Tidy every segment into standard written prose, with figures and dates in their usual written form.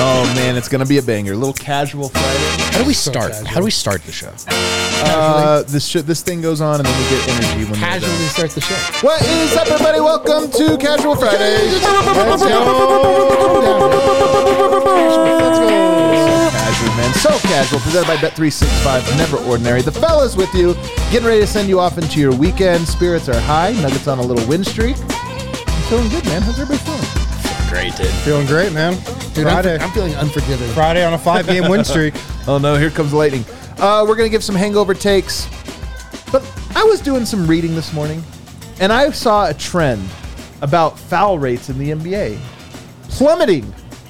Oh, man, it's going to be a banger. A little casual Friday. How do we start? How do we start the show? This thing goes on, and then we get energy when Casually start the show. What is up, everybody? Welcome to Casual Friday. Let's go. Casual, man. So casual. Presented by Bet365. Never ordinary. The fellas with you. Getting ready to send you off into your weekend. Spirits are high. Nuggets on a little win streak. I'm feeling good, man. How's everybody feeling? Great, dude. Feeling great, man. Dude, Friday. I'm feeling unforgiving. Friday on a 5-game win streak. Oh, no. Here comes lightning. We're going to give some hangover takes. But I was doing some reading this morning, and I saw a trend about foul rates in the NBA. Plummeting.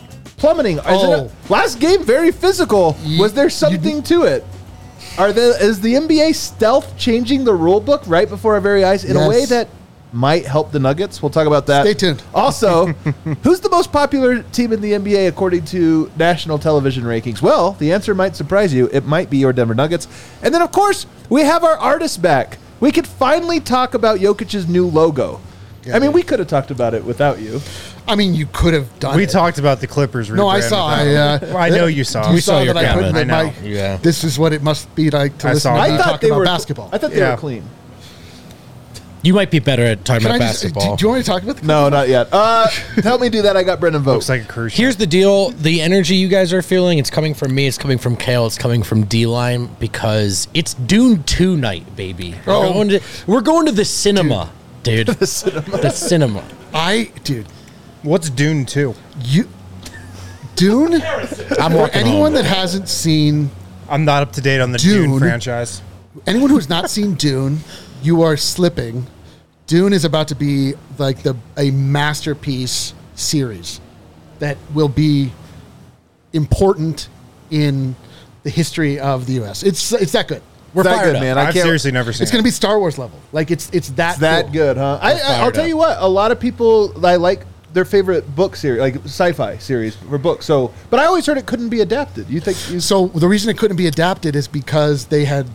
Last game, very physical. Was there something to it? Is the NBA stealth changing the rule book right before our very eyes in a way that might help the Nuggets? We'll talk about that. Stay tuned. Also, who's the most popular team in the NBA according to national television rankings? Well, the answer might surprise you. It might be your Denver Nuggets. And then, of course, we have our artist back. We could finally talk about Jokic's new logo. Yeah, we could have talked about it without you. I mean, you could have done it. We talked about the Clippers. No, I saw. I know you saw. You saw that I comment. couldn't. I know. Yeah. This is what it must be like to I listen saw to that. me talk about basketball. I thought they were clean. You might be better at talking Can about I just, basketball. do you want me to talk about the No, not yet. Help me do that. I got Brendan Vogt. Looks like a cruise ship. Here's the deal. The energy you guys are feeling, it's coming from me, it's coming from Kale, it's coming from D-Line, because it's Dune 2 night, baby. We're going to the cinema, dude. The cinema. Dude, What's Dune 2? Dune? I'm For walking anyone home. that hasn't seen, I'm not up to date on the Dune. Dune franchise. anyone who's not seen Dune, you are slipping. Dune is about to be like a masterpiece series that will be important in the history of the U.S. It's that good. We're that fired good, up. man. I I've can't. seriously never seen It's going to be Star Wars level. Like it's that That cool. good, huh? I'll tell you what. A lot of people like their favorite book series, like sci-fi series for books. So, but I always heard it couldn't be adapted. You think? So the reason it couldn't be adapted is because they had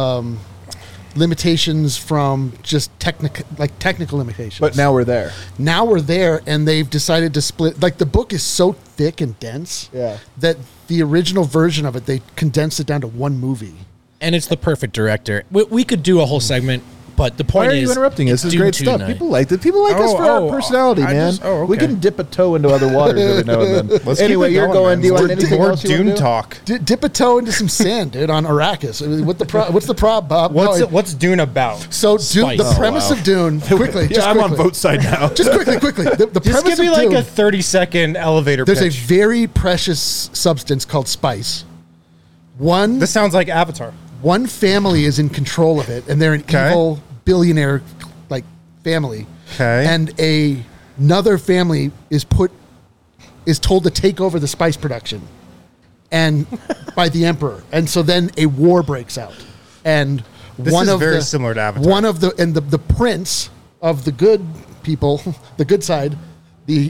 limitations from just technical limitations. But now we're there. Now we're there, and they've decided to split. Like the book is so thick and dense that the original version of it, they condensed it down to one movie. And it's the perfect director. We could do a whole segment, but the point Why are is... you interrupting? it's This is Dune great 2 stuff. night. People like it. People like us for our personality, man. We can dip a toe into other waters every now and then. Let's Anyway, keep it you're going. man. Do you want anything More else you Dune want to do? talk. Dip a toe into some sand, dude, on Arrakis. I mean, what's the problem, Bob? What's Dune about? So Spice. the premise of Dune, quickly, just I'm on quickly. Vote's side now. Just quickly. The Just premise give me of like Dune, a 30-second elevator there's a pitch. very precious substance called spice. This sounds like Avatar. One family is in control of it, and they're an evil billionaire like family. Okay. And another family is told to take over the spice production, and by the emperor. And so then a war breaks out, and This is very similar to Avatar. One of the prince of the good people, the good side, the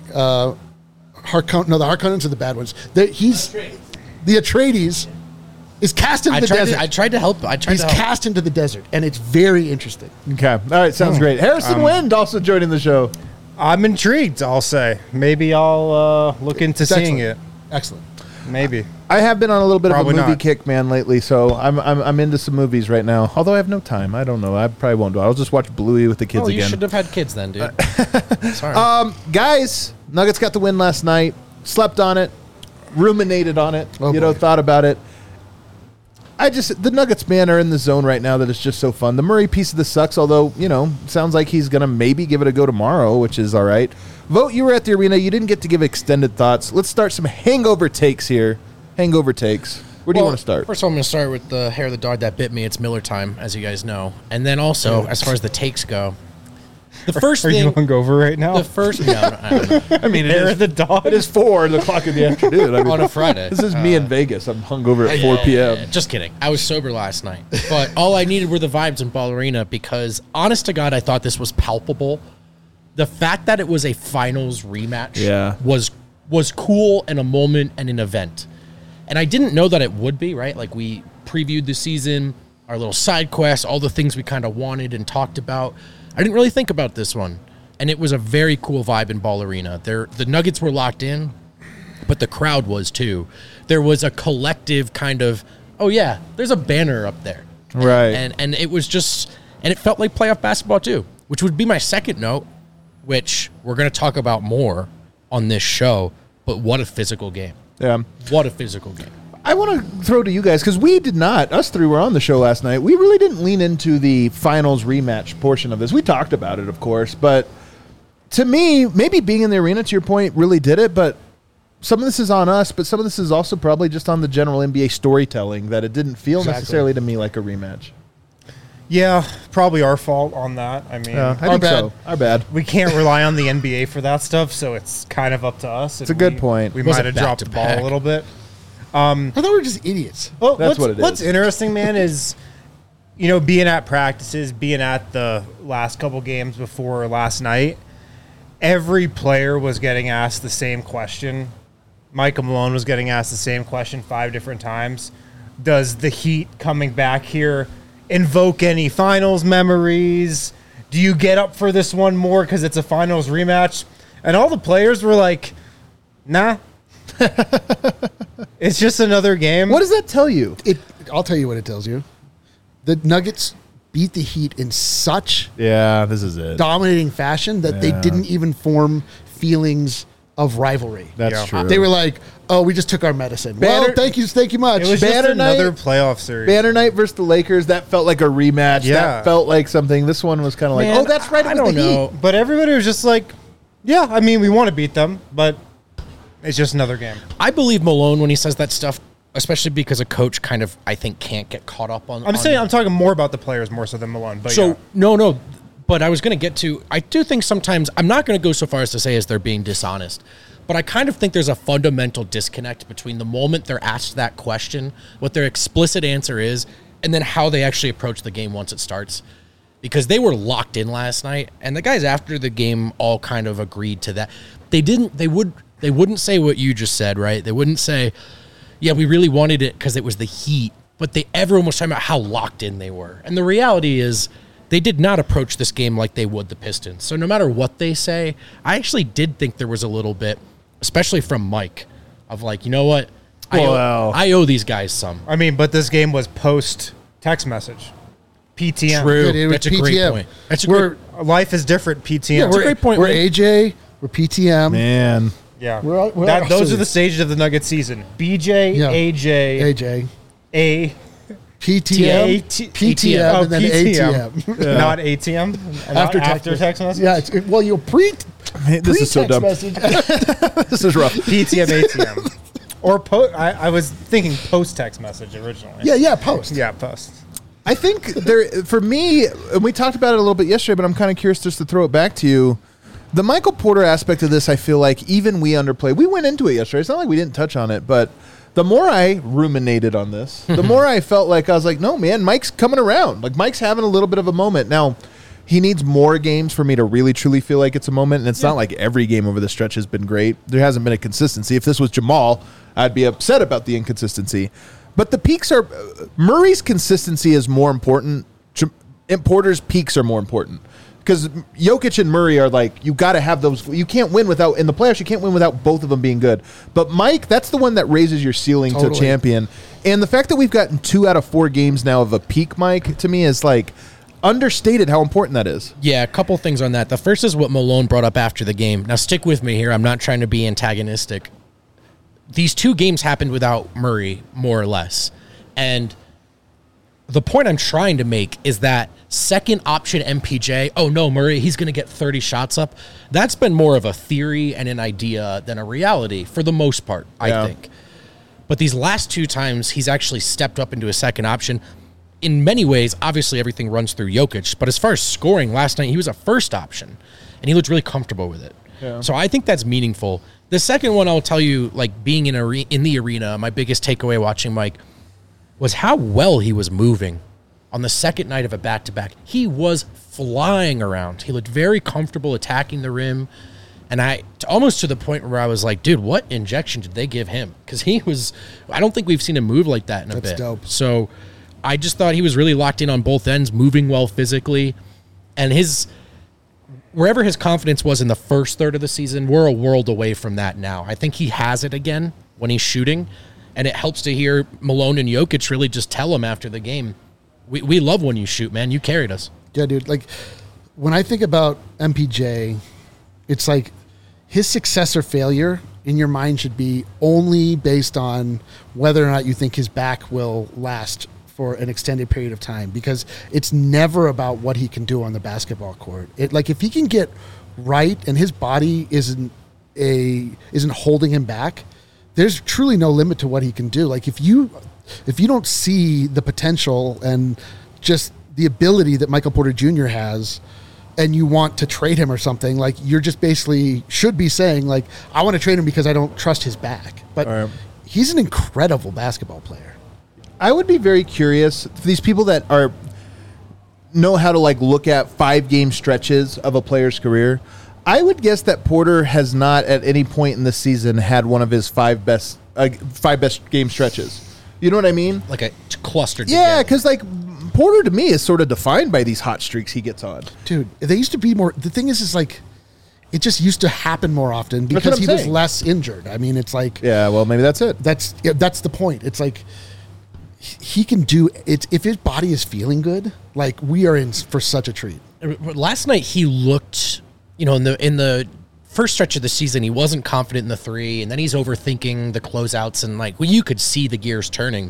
Harkonnens are the bad ones. The Atreides is cast into the desert. I tried to help. He's cast into the desert, and it's very interesting. Okay. All right. Sounds great. Harrison Wind also joining the show. I'm intrigued, I'll say. Maybe I'll look into It's seeing excellent. Excellent. it. Maybe. I have been on a little bit Probably of a movie not. kick, man, lately. So I'm into some movies right now. Although I have no time. I don't know. I probably won't do it. I'll just watch Bluey with the kids Oh, you again. should have had kids then, dude. Sorry. Guys, Nuggets got the win last night. Slept on it. Ruminated on it. Oh, boy. Thought about it. The Nuggets, man, are in the zone right now that it's just so fun. The Murray piece of this sucks, although, sounds like he's going to maybe give it a go tomorrow, which is all right. Vote, you were at the arena. You didn't get to give extended thoughts. Let's start some hangover takes here. Hangover takes. Where do you want to start? First of all, I'm going to start with the hair of the dog that bit me. It's Miller time, as you guys know. And then also, as far as the takes go, the first Are you thing... hungover right now? The first... No, I don't know. I mean, Hair of the dog? It is 4 o'clock in the afternoon. I mean, On a Friday. This is me in Vegas. I'm hungover at 4 p.m. Just kidding. I was sober last night. But all I needed were the vibes in Ball Arena because, honest to God, I thought this was palpable. The fact that it was a finals rematch was cool and a moment and an event. And I didn't know that it would be, right? Like, we previewed the season, our little side quests, all the things we kind of wanted and talked about. I didn't really think about this one. And it was a very cool vibe in Ball Arena. The Nuggets were locked in. but the crowd was too. There was a collective kind of, oh yeah, there's a banner up there. Right. And it was just, and it felt like playoff basketball too, which would be my second note, which we're going to talk about more on this show, but what a physical game. Yeah. What a physical game. I want to throw to you guys, because we did not, us three were on the show last night. We really didn't lean into the finals rematch portion of this. We talked about it, of course, but to me, maybe being in the arena, to your point, really did it, but some of this is on us, but some of this is also probably just on the general NBA storytelling, that it didn't feel necessarily to me like a rematch. Yeah, probably our fault on that. I mean, I think so. Our bad. we can't rely on the NBA for that stuff, so it's kind of up to us. It's a good point. We Was might it have dropped the ball back-to-back? a little bit. I thought we were just idiots. Well, That's what it is. What's interesting, man, is being at practices, being at the last couple games before last night, every player was getting asked the same question. Michael Malone was getting asked the same question 5 different times. Does the Heat coming back here invoke any finals memories? Do you get up for this one more because it's a finals rematch? And all the players were like, nah. It's just another game. What does that tell you? I'll tell you what it tells you. The Nuggets beat the Heat in such Yeah, this is it. dominating fashion that they didn't even form feelings of rivalry. That's true. They were like, "Oh, we just took our medicine." Banner- Well, thank you much. It was Banner just another night- playoff series. Banner night versus the Lakers, that felt like a rematch. Yeah. That felt like something. This one was kind of like, Man, oh, that's right. It I was don't the know. Heat. But everybody was just like, yeah, I mean, we want to beat them, but it's just another game. I believe Malone when he says that stuff, especially because a coach kind of, I think, can't get caught up on. I'm talking more about the players more so than Malone. But So yeah. no, but I was going to get to. I do think sometimes I'm not going to go so far as to say as they're being dishonest, but I kind of think there's a fundamental disconnect between the moment they're asked that question, what their explicit answer is, and then how they actually approach the game once it starts. Because they were locked in last night, and the guys after the game all kind of agreed to that. They wouldn't say what you just said, right? They wouldn't say, yeah, we really wanted it because it was the Heat, but everyone was talking about how locked in they were. And the reality is they did not approach this game like they would the Pistons. So no matter what they say, I actually did think there was a little bit, especially from Mike, of like, you know what? I owe these guys some. I mean, but this game was post text message. PTM. True. It was That's a great PTM. point. That's a We're- great Life is different. PTM. Yeah, a great point, We're Wade. AJ. We're PTM. Man. yeah. We're Those also- are the stages of the Nugget season. BJ, Yeah. AJ, AJ. A, PTM. PTM. Oh, And then PTM. ATM. Not ATM. Not after text message. Yeah. Well, you'll Man, this is so dumb. message. This is rough. PTM, ATM. Or I was thinking post text message originally. yeah. Post. Yeah, post. I think for me, and we talked about it a little bit yesterday, but I'm kind of curious just to throw it back to you. The Michael Porter aspect of this, I feel like even we underplay. We went into it yesterday. It's not like we didn't touch on it, but the more I ruminated on this, the more I felt like I was like, no, man, Mike's coming around. Like Mike's having a little bit of a moment. Now, he needs more games for me to really, truly feel like it's a moment, and it's not like every game over the stretch has been great. There hasn't been a consistency. If this was Jamal, I'd be upset about the inconsistency. But the peaks are Murray's consistency is more important. Porter's peaks are more important because Jokic and Murray are like you got to have those. You can't win without in the playoffs. You can't win without both of them being good. But Mike, that's the one that raises your ceiling to champion. And the fact that we've gotten 2 out of 4 games now of a peak Mike to me is like understated how important that is. Yeah, a couple things on that. The first is what Malone brought up after the game. Now, stick with me here. I'm not trying to be antagonistic. These 2 games happened without Murray, more or less. And the point I'm trying to make is that second option MPJ, oh no, Murray, he's going to get 30 shots up. That's been more of a theory and an idea than a reality for the most part, I think. But these last 2 times, he's actually stepped up into a second option. In many ways, obviously everything runs through Jokic, but as far as scoring last night, he was a first option, and he looked really comfortable with it. Yeah. So I think that's meaningful. The second one I'll tell you, like being in the arena, my biggest takeaway watching Mike was how well he was moving on the second night of a back-to-back. He was flying around. He looked very comfortable attacking the rim. And almost to the point where I was like, dude, what injection did they give him? Because I don't think we've seen him move like that in a bit. That's dope. So I just thought he was really locked in on both ends, moving well physically. And wherever his confidence was in the first third of the season, we're a world away from that now. I think he has it again when he's shooting, and it helps to hear Malone and Jokic really just tell him after the game, we love when you shoot, man. You carried us. Yeah, dude. Like, when I think about MPJ, it's like his success or failure in your mind should be only based on whether or not you think his back will last for an extended period of time, because it's never about what he can do on the basketball court. Like, if he can get right and his body isn't holding him back, there's truly no limit to what he can do. Like, if you don't see the potential and just the ability that Michael Porter Jr. has, and you want to trade him or something, like, you're just basically should be saying, like, I want to trade him because I don't trust his back. But he's an incredible basketball player. I would be very curious for these people that know how to like look at 5-game stretches of a player's career. I would guess that Porter has not at any point in the season had one of his 5 best game stretches. You know what I mean? Like a clustered. Yeah, because like Porter to me is sort of defined by these hot streaks he gets on. Dude, they used to be more. The thing is like, it just used to happen more often because he was less injured. I mean, it's like, yeah, well, maybe that's it. That's the point. It's like he can do it if his body is feeling good. Like, we are in for such a treat. Last night he looked, in the first stretch of the season, he wasn't confident in the 3, and then he's overthinking the closeouts, and like, well, you could see the gears turning.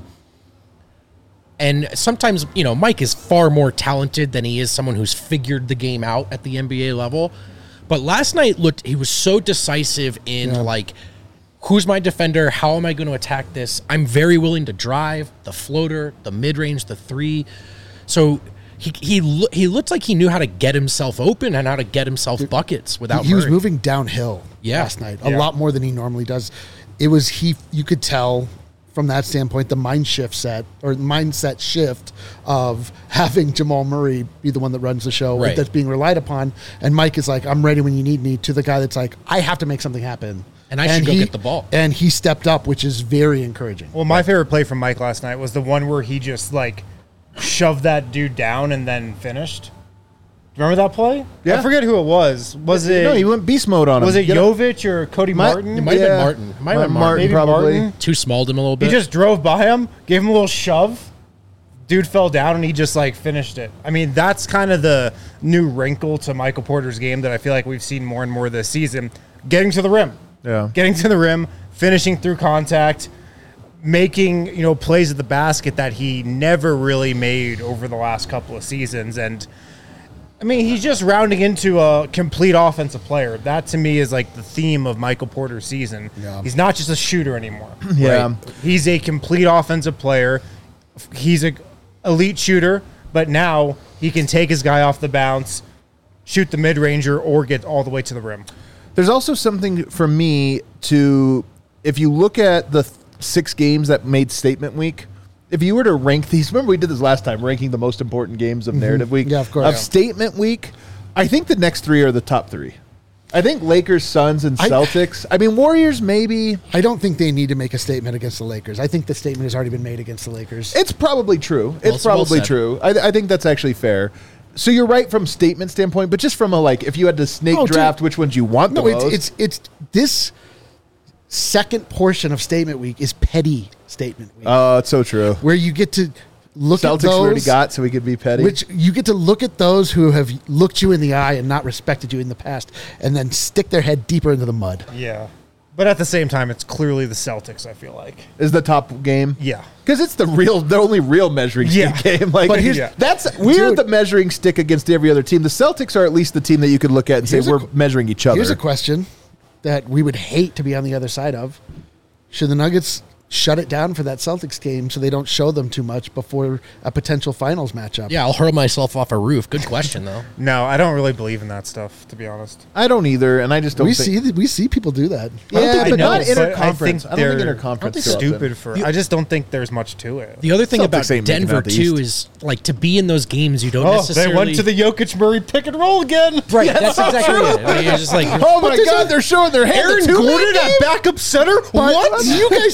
And sometimes, Mike is far more talented than he is someone who's figured the game out at the NBA level. But last night he was so decisive in like, who's my defender? How am I going to attack this? I'm very willing to drive the floater, the mid-range, the 3. So he looked like he knew how to get himself open and how to get himself buckets without He was moving downhill last night a lot more than he normally does. It was you could tell from that standpoint the mindset shift of having Jamal Murray be the one that runs the show, right, that's being relied upon, and Mike is like, I'm ready when you need me, to the guy that's like, I have to make something happen. And I should go get the ball. And he stepped up, which is very encouraging. Well, my favorite play from Mike last night was the one where he just like shoved that dude down and then finished. Remember that play? Yeah. I forget who it was. Was it? No, he went beast mode on him. Was it Jovic or Cody Martin? It might have been Martin. It might have been Martin. Maybe probably. Martin. Too smalled him a little bit. He just drove by him, gave him a little shove. Dude fell down, and he just like finished it. I mean, that's kind of the new wrinkle to Michael Porter's game that I feel like we've seen more and more this season. Getting to the rim. Yeah. Getting to the rim, finishing through contact, making, plays at the basket that he never really made over the last couple of seasons. And I mean, he's just rounding into a complete offensive player. That to me is like the theme of Michael Porter's season. Yeah. He's not just a shooter anymore. Yeah. Right? He's a complete offensive player. He's an elite shooter, but now he can take his guy off the bounce, shoot the mid-ranger, or get all the way to the rim. There's also something for me if you look at the 6 games that made Statement Week, if you were to rank these, remember we did this last time, ranking the most important games of Narrative Week? Yeah, of course. Of Statement Week, I think the next 3 are the top 3. I think Lakers, Suns, and Celtics. I mean, Warriors, maybe. I don't think they need to make a statement against the Lakers. I think the statement has already been made against the Lakers. It's probably true. It's probably true. I think that's actually fair. So you're right from statement standpoint, but just from a if you had to snake draft, which ones you want the most. It's this second portion of Statement Week is petty Statement Week. Oh, it's so true. Where you get to look Celtics at those. already got, so we could be petty. Which you get to look at those who have looked you in the eye and not respected you in the past, and then stick their head deeper into the mud. Yeah. But at the same time, it's clearly the Celtics, I feel like. Is the top game? Yeah. Because it's the only real measuring stick game. But we're the measuring stick against every other team. The Celtics are at least the team that you could look at and say we're measuring each other. Here's a question that we would hate to be on the other side of. Should the Nuggets shut it down for that Celtics game so they don't show them too much before a potential finals matchup? Yeah, I'll hurl myself off a roof. Good question, though. No, I don't really believe in that stuff, to be honest. I don't either, and I just don't we see people do that. Yeah, but not interconference. I think interconference. Stupid for. I just don't think there's much to it. The other thing Celtics about ain't making Denver out the too East. is to be in those games you don't necessarily. They went to the Jokic Murray pick and roll again. Right, that's exactly it. I mean, you're just like, oh my God, they're showing their hand. Aaron Gordon at backup center. What? You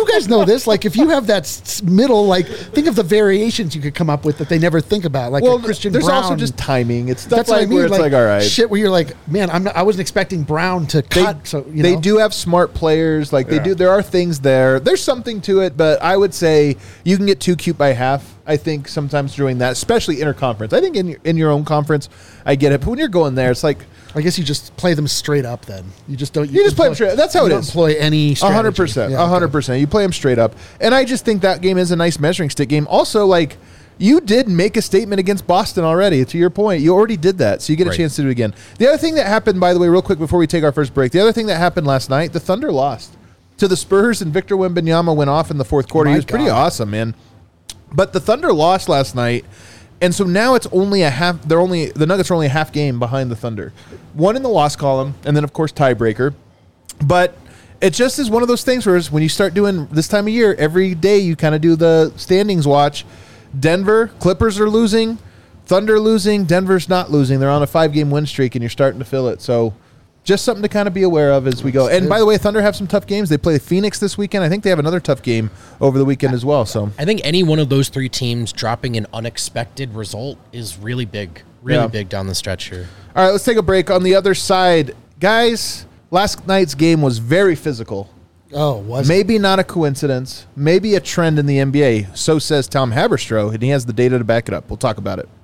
you guys know this. Like, if you have that middle, like, think of the variations you could come up with that they never think about. Like, well, Christian there's Brown. also just timing. It's stuff That's what like I mean. where it's like, all right. Shit where you're like, man, I wasn't expecting Brown to cut. They do have smart players. Like, they do. There are things there. There's something to it, but I would say you can get too cute by half. I think sometimes doing that, especially interconference. I think in your own conference, I get it. But when you're going there, it's like, I guess you just play them straight up. Then you just don't. You just play them straight up. That's how it is. Employ any 100%. 100%. You play them straight up, and I just think that game is a nice measuring stick game. Also, like, you did make a statement against Boston already. To your point, you already did that, so you get a chance to do it again. The other thing that happened, by the way, real quick before we take our first break, the other thing that happened last night, the Thunder lost to the Spurs, and Victor Wembanyama went off in the fourth quarter. He was pretty awesome, man. But the Thunder lost last night, and so now it's only a half. The Nuggets are only a half game behind the Thunder, one in the loss column, and then of course tiebreaker. But it just is one of those things where when you start doing this time of year, every day you kind of do the standings watch. Denver, Clippers are losing, Thunder losing, Denver's not losing. They're on a 5-game win streak, and you're starting to feel it. So just something to kind of be aware of as we go. And by the way, Thunder have some tough games. They play Phoenix this weekend. I think they have another tough game over the weekend as well. So I think any one of those three teams dropping an unexpected result is really big. Really big down the stretch here. All right, let's take a break. On the other side, guys, last night's game was very physical. Oh, was maybe not a coincidence. Maybe a trend in the NBA. So says Tom Haberstroh, and he has the data to back it up. We'll talk about it.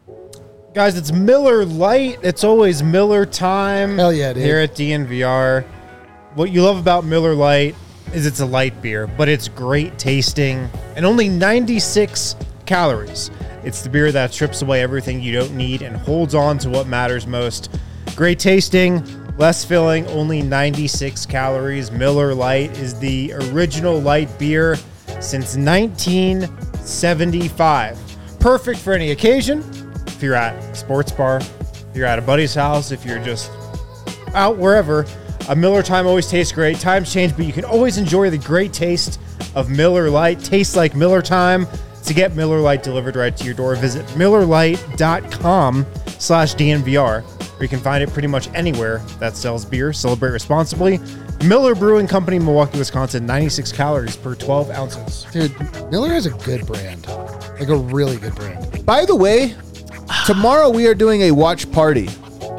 Guys, it's Miller Lite. It's always Miller time. Hell yeah, dude. Here at DNVR. What you love about Miller Lite is it's a light beer, but it's great tasting and only 96 calories. It's the beer that strips away everything you don't need and holds on to what matters most. Great tasting, less filling, only 96 calories. Miller Lite is the original light beer since 1975. Perfect for any occasion. If you're at a sports bar, if you're at a buddy's house, if you're just out wherever, a Miller Time always tastes great. Times change, but you can always enjoy the great taste of Miller Lite. Tastes like Miller Time. To get Miller Lite delivered right to your door, visit MillerLite.com/DNVR, where you can find it pretty much anywhere that sells beer. Celebrate responsibly. Miller Brewing Company, Milwaukee, Wisconsin, 96 calories per 12 ounces. Dude, Miller has a good brand. Like a really good brand. By the way, tomorrow we are doing a watch party.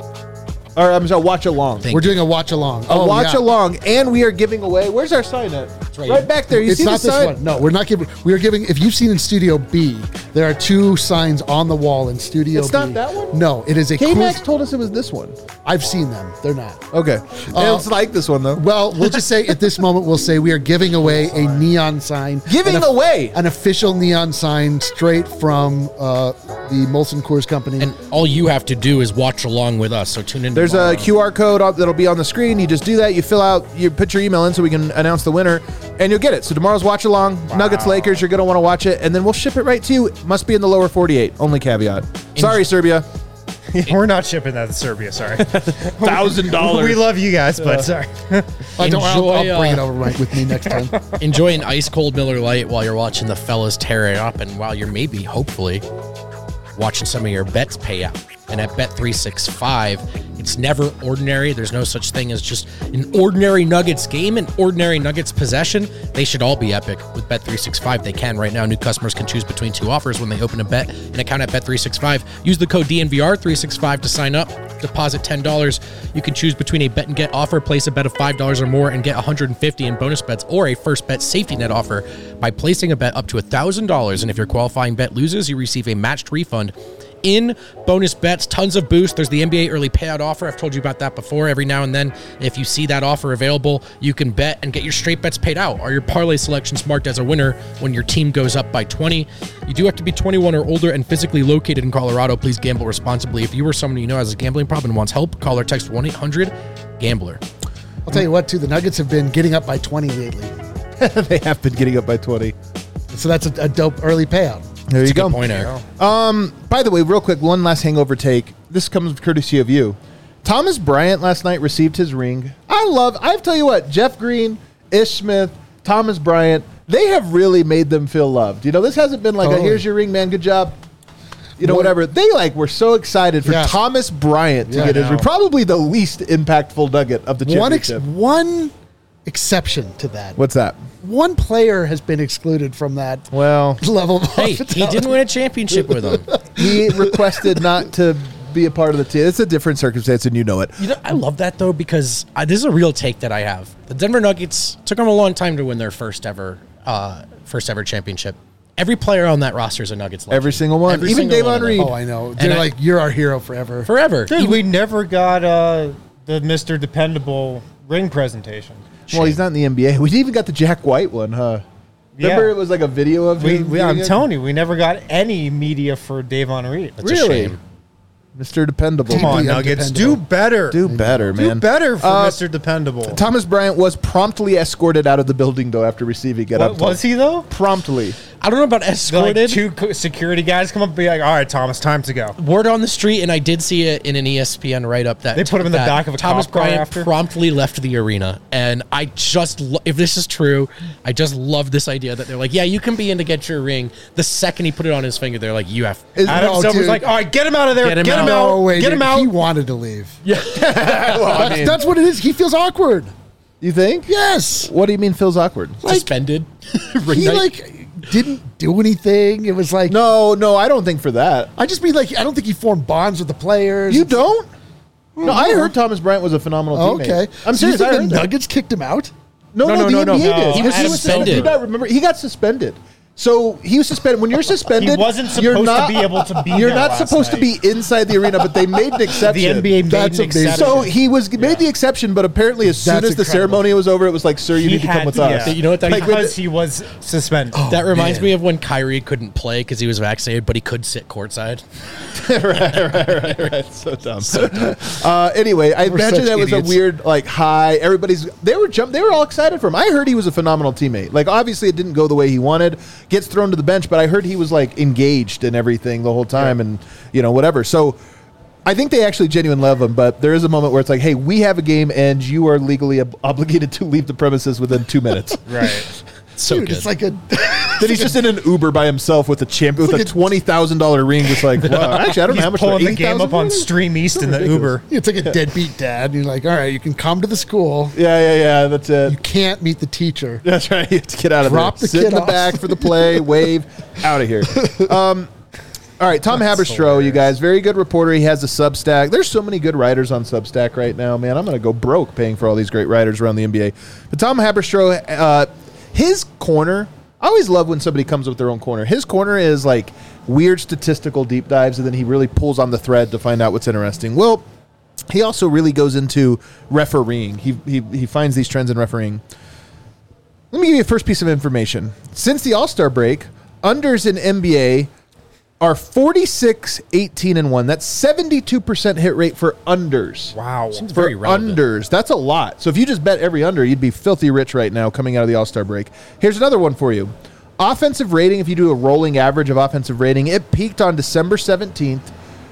Or I'm sorry, watch along. We're doing a watch along. A watch along, and we are giving away. Where's our sign at? It's right back there. You it's see not the this sign? one. No, we're not giving. We are giving. If you've seen in Studio B, there are 2 signs on the wall in Studio B. It's not that one? No, it is a K-Max told us it was this one. I've seen them. They're not. Okay. It's like this one, though. Well, we'll just say at this moment, we'll say we are giving away a neon sign. Giving away? An official neon sign straight from the Molson Coors Company. And all you have to do is watch along with us. So tune in. There's a QR code that'll be on the screen. You just do that. You fill out, you put your email in so we can announce the winner, and you'll get it. So tomorrow's watch along, Nuggets Lakers. You're going to want to watch it, and then we'll ship it right to you. Must be in the lower 48. Only caveat. Sorry, Serbia. We're not shipping that to Serbia, sorry. $1,000. We love you guys, but sorry. I'll bring it over with me next time. Enjoy an ice cold Miller Lite while you're watching the fellas tear it up, and while you're maybe, hopefully, watching some of your bets pay out. And at Bet365, it's never ordinary. There's no such thing as just an ordinary Nuggets game, an ordinary Nuggets possession. They should all be epic. With Bet365, they can right now. New customers can choose between 2 offers when they open an account at Bet365. Use the code DNVR365 to sign up. Deposit $10. You can choose between a bet and get offer. Place a bet of $5 or more and get $150 in bonus bets, or a first bet safety net offer by placing a bet up to $1,000. And if your qualifying bet loses, you receive a matched refund in bonus bets. Tons of boost. There's the NBA early payout offer. I've told you about that before. Every now and then, if you see that offer available, you can bet and get your straight bets paid out. Are your parlay selections marked as a winner when your team goes up by 20? You do have to be 21 or older and physically located in Colorado. Please gamble responsibly. If you or someone you know has a gambling problem and wants help, call or text 1-800-GAMBLER. I'll tell you what, too. The Nuggets have been getting up by 20 lately. They have been getting up by 20. So that's a dope early payout. There you go. Good point, Eric. By the way, real quick, one last hangover take. This comes courtesy of you. Thomas Bryant last night received his ring. I tell you what, Jeff Green, Ish Smith, Thomas Bryant, they have really made them feel loved. You know, this hasn't been like, here's your ring, man, good job. You know, whatever. They were so excited for Thomas Bryant to get his ring. Probably the least impactful Nugget of the championship. One exception to that. What's that? One player has been excluded from that Well, level of Hey, he didn't win a championship with them. he requested not to be a part of the team. It's a different circumstance, and you know it. You know, I love that though because this is a real take that I have. The Denver Nuggets took them a long time to win their first ever championship. Every player on that roster is a Nuggets legend. Every single one. Every Even single one Davon of them. Reed. Oh, I know. They're like, you're our hero forever. Forever. Dude, we never got the Mr. Dependable ring presentation. Well, he's not in the NBA. We even got the Jack White one, huh? Remember Yeah. it was like a video of him? I'm doing it? telling you, we never got any media for Davon Reed. That's a Really? shame. Mr. Dependable. Come on, Deeply Nuggets. Do undependable. better. Do better, man. Do better for Mr. Dependable. Thomas Bryant was promptly escorted out of the building, though, after receiving it up. Was he, though? Promptly. I don't know about Like escorted. two security guys come up and be like, all right, Thomas, time to go. Word on the street, and I did see it in an ESPN write-up that They put him in the that back of a Thomas cop car Bryant after? promptly left the arena, and I just if this is true, I just love this idea that they're like, yeah, you can be in to get your ring. The second he put it on his finger, they're like, you have. Adam No, Silver's dude. like, all right, get him out of there. Get him Get him out. out. No way. Get him out. He wanted to leave. Well, That's what it is. He feels awkward. You think? Yes. What do you mean feels awkward? Suspended. Ring He night. didn't do anything. It was like No, I don't think for that. I just mean like I don't think he formed bonds with the players. You don't? No, I heard Thomas Bryant was a phenomenal teammate. Okay. I'm So you serious. I think heard the that. Nuggets kicked him out? No, No, the no, no, NBA no. did. He was suspended. Do you not remember? He got suspended. So he was suspended. When you're suspended, He wasn't you're supposed to not, be able to be You're there not last supposed to night. be inside the arena, but they made an The exception. NBA made That's an amazing. exception. So he was made the exception, but apparently as soon That's as the incredible. ceremony was over, it was like, "Sir, you He need to come had with to, us." yeah. You know what that Like, because he was suspended. That reminds man. me of when Kyrie couldn't play because he was vaccinated, but he could sit courtside. right. So dumb. Anyway, I We're imagine such that was idiots. a weird like high. They were all excited for him. I heard he was a phenomenal teammate. Like obviously it didn't go the way he wanted. Gets thrown to the bench, but I heard he was like engaged in everything the whole time, and whatever. So I think they actually genuinely love him, but there is a moment where it's like, hey, we have a game, and you are legally obligated to leave the premises within 2 minutes. Right. So Dude, good. it's like a Then he's just in an Uber by himself with a with like a a- $20,000 ring, just like, wow. Actually, I don't know how much. Pulling the $80,000? game up on Stream East in the Ridiculous. Uber. it's like a deadbeat dad. And you're like, all right, you can come to the school. Yeah. That's it. You can't meet the teacher. That's right. You have to get out of Drop there. the Sit kid in the off. back for the play. Wave. Out of here. All right, Tom Haberstroh, you guys. Very good reporter. He has a Substack. There's so many good writers on Substack right now, man. I'm going to go broke paying for all these great writers around the NBA. But Tom Haberstroh, his corner, I always love when somebody comes up with their own corner. His corner is like weird statistical deep dives, and then he really pulls on the thread to find out what's interesting. Well, he also really goes into refereeing. He finds these trends in refereeing. Let me give you a first piece of information. Since the All-Star break, unders in NBA are 46, 18, and 1. That's 72% hit rate for unders. Wow. Seems For very relevant. unders. That's a lot. So if you just bet every under, you'd be filthy rich right now coming out of the All-Star break. Here's another one for you. Offensive rating, if you do a rolling average of offensive rating, it peaked on December 17th,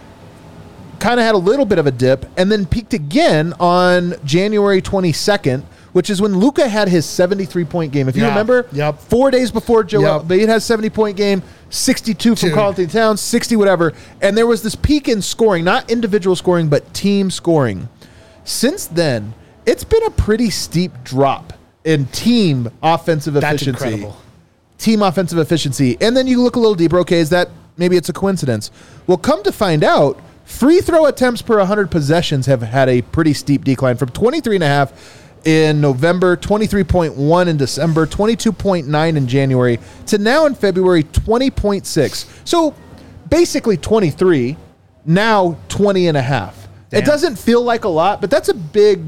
kind of had a little bit of a dip, and then peaked again on January 22nd, which is when Luka had his 73-point game. If you Yeah. remember, Yep. 4 days before Joel Yep. Embiid had a 70-point game, 62 from Dude. Karl Anthony Towns, 60 whatever, and there was this peak in scoring, not individual scoring, but team scoring. Since then, it's been a pretty steep drop in team offensive That's efficiency. incredible. Team offensive efficiency. And then you look a little deeper. Okay, is that maybe it's a coincidence? Well, come to find out, free throw attempts per 100 possessions have had a pretty steep decline from 23.5 in November, 23.1 in December, 22.9 in January, to now in February, 20.6. So basically 23, now 20 and a half. Damn. It doesn't feel like a lot, but that's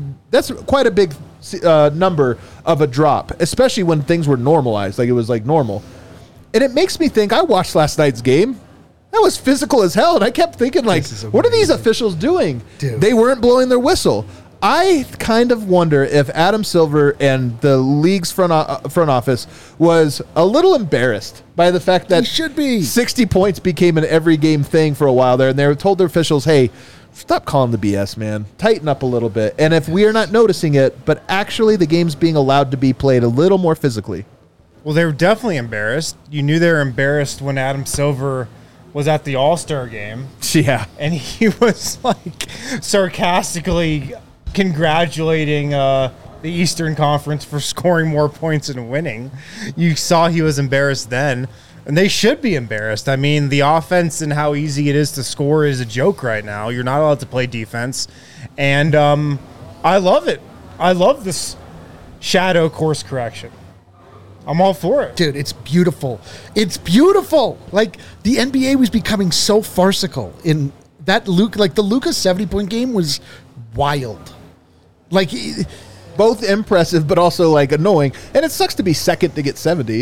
quite a big number of a drop, especially when things were normalized, like it was like normal. And it makes me think, I watched last night's game. That was physical as hell, and I kept thinking, like, This is what are these amazing. officials doing? Dude. They weren't blowing their whistle. I kind of wonder if Adam Silver and the league's front office was a little embarrassed by the fact that He should be. 60 points became an every game thing for a while there, and they were told their officials, hey, stop calling the BS, man. Tighten up a little bit. And if we are not noticing it, but actually the game's being allowed to be played a little more physically. Well, they were definitely embarrassed. You knew they were embarrassed when Adam Silver was at the All-Star game, Yeah. and he was like sarcastically congratulating the Eastern Conference for scoring more points and winning. You saw he was embarrassed then, and they should be embarrassed. I mean, the offense and how easy it is to score is a joke right now. You're not allowed to play defense, and I love it. I love this shadow course correction. I'm all for it. Dude, it's beautiful. It's beautiful. Like, the NBA was becoming so farcical in that the Luka 70-point game was wild. Like, both impressive, but also like annoying. And it sucks to be second to get 70.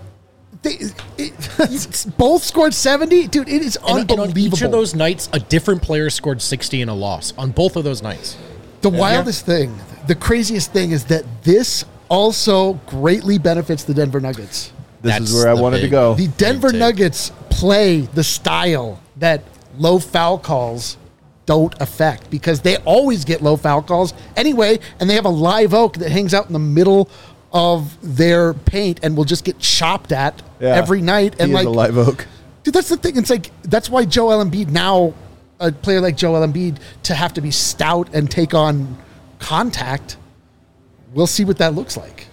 Both scored 70? Dude, it is unbelievable. And on each of those nights, a different player scored 60 in a loss on both of those nights. The wildest thing, the craziest thing is that this also greatly benefits the Denver Nuggets. This is where I wanted to go. The Denver Nuggets play the style that low foul calls don't affect, because they always get low foul calls anyway, and they have a live oak that hangs out in the middle of their paint and will just get chopped at every night. And he is a live oak. Dude, that's the thing. It's like, that's why Joel Embiid now, a player like Joel Embiid, to have to be stout and take on contact, we'll see what that looks like.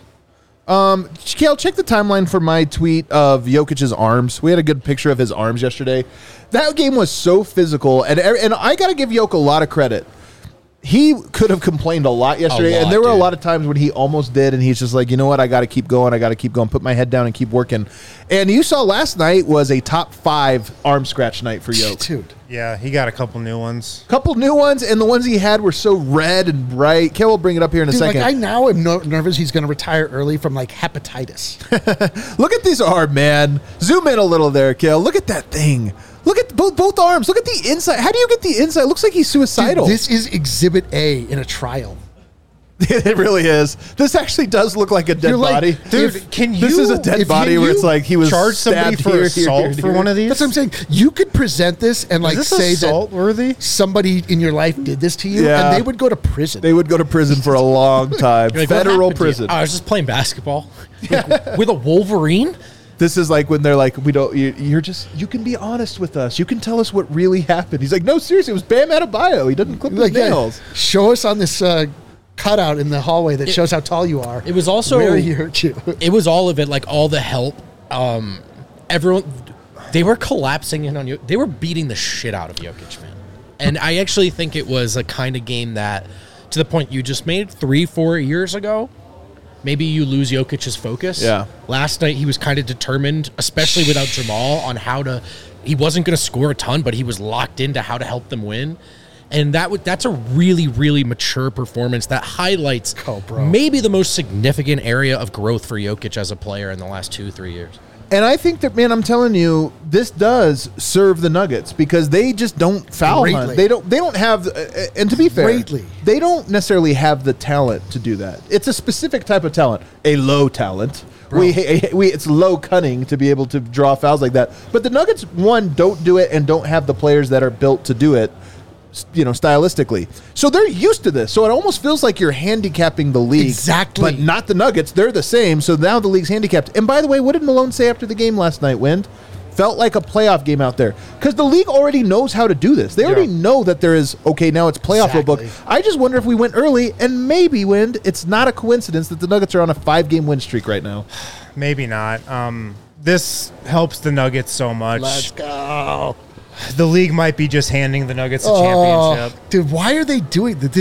Kale, check the timeline for my tweet of Jokic's arms. We had a good picture of his arms yesterday. That game was so physical, and I got to give Jokic a lot of credit. He could have complained a lot yesterday, and there were a lot of times when he almost did, and he's just like, you know what, I got to keep going, put my head down and keep working. And you saw last night was a top 5 arm scratch night for Jokic. Dude. Yeah, he got a couple new ones. And the ones he had were so red and bright. Kale will bring it up here in a second. Like, I now am nervous he's going to retire early from, like, hepatitis. Look at this arm, man. Zoom in a little there, Kale. Look at that thing. Look at both arms. Look at the inside. How do you get the inside? It looks like he's suicidal. Dude, this is Exhibit A in a trial. It really is. This actually does look like a dead body. Dude, this is a dead body where it's like he was charge somebody for assault for one of these? That's what I'm saying. You could present this and like say assault worthy? Somebody in your life did this to you, and they would go to prison. They would go to prison for a long time. Like, federal prison. I was just playing basketball with a Wolverine. This is like when they're like, we don't. You can be honest with us. You can tell us what really happened. He's like, no, seriously, it was Bam Adebayo. He doesn't clip his nails. Show us on this cutout in the hallway that shows how tall you are. It was also where he hurt you. It was all of it, like all the help. Everyone, they were collapsing in on you. They were beating the shit out of Jokic, man. And I actually think it was a kind of game that, to the point you just made, 3-4 years ago, maybe you lose Jokic's focus. Yeah. Last night he was kind of determined, especially without Jamal, on how to. He wasn't going to score a ton, but he was locked into how to help them win. And that's a really, really mature performance that highlights maybe the most significant area of growth for Jokic as a player in the last 2-3 years. And I think that, man, I'm telling you, this does serve the Nuggets because they just don't foul hunt. They don't have, and to be fair, they don't necessarily have the talent to do that. It's a specific type of talent, a low talent. It's low cunning to be able to draw fouls like that. But the Nuggets, one, don't do it and don't have the players that are built to do it, stylistically. So they're used to this. So it almost feels like you're handicapping the league. Exactly. But not the Nuggets. They're the same. So now the league's handicapped. And by the way, what did Malone say after the game last night, Wind? Felt like a playoff game out there. Because the league already knows how to do this. They already know that there is, okay, now it's playoff book. I just wonder if we went early, and maybe, Wind, it's not a coincidence that the Nuggets are on a 5-game win streak right now. Maybe not. This helps the Nuggets so much. Let's go. The league might be just handing the Nuggets a championship. Dude, why are they doing that?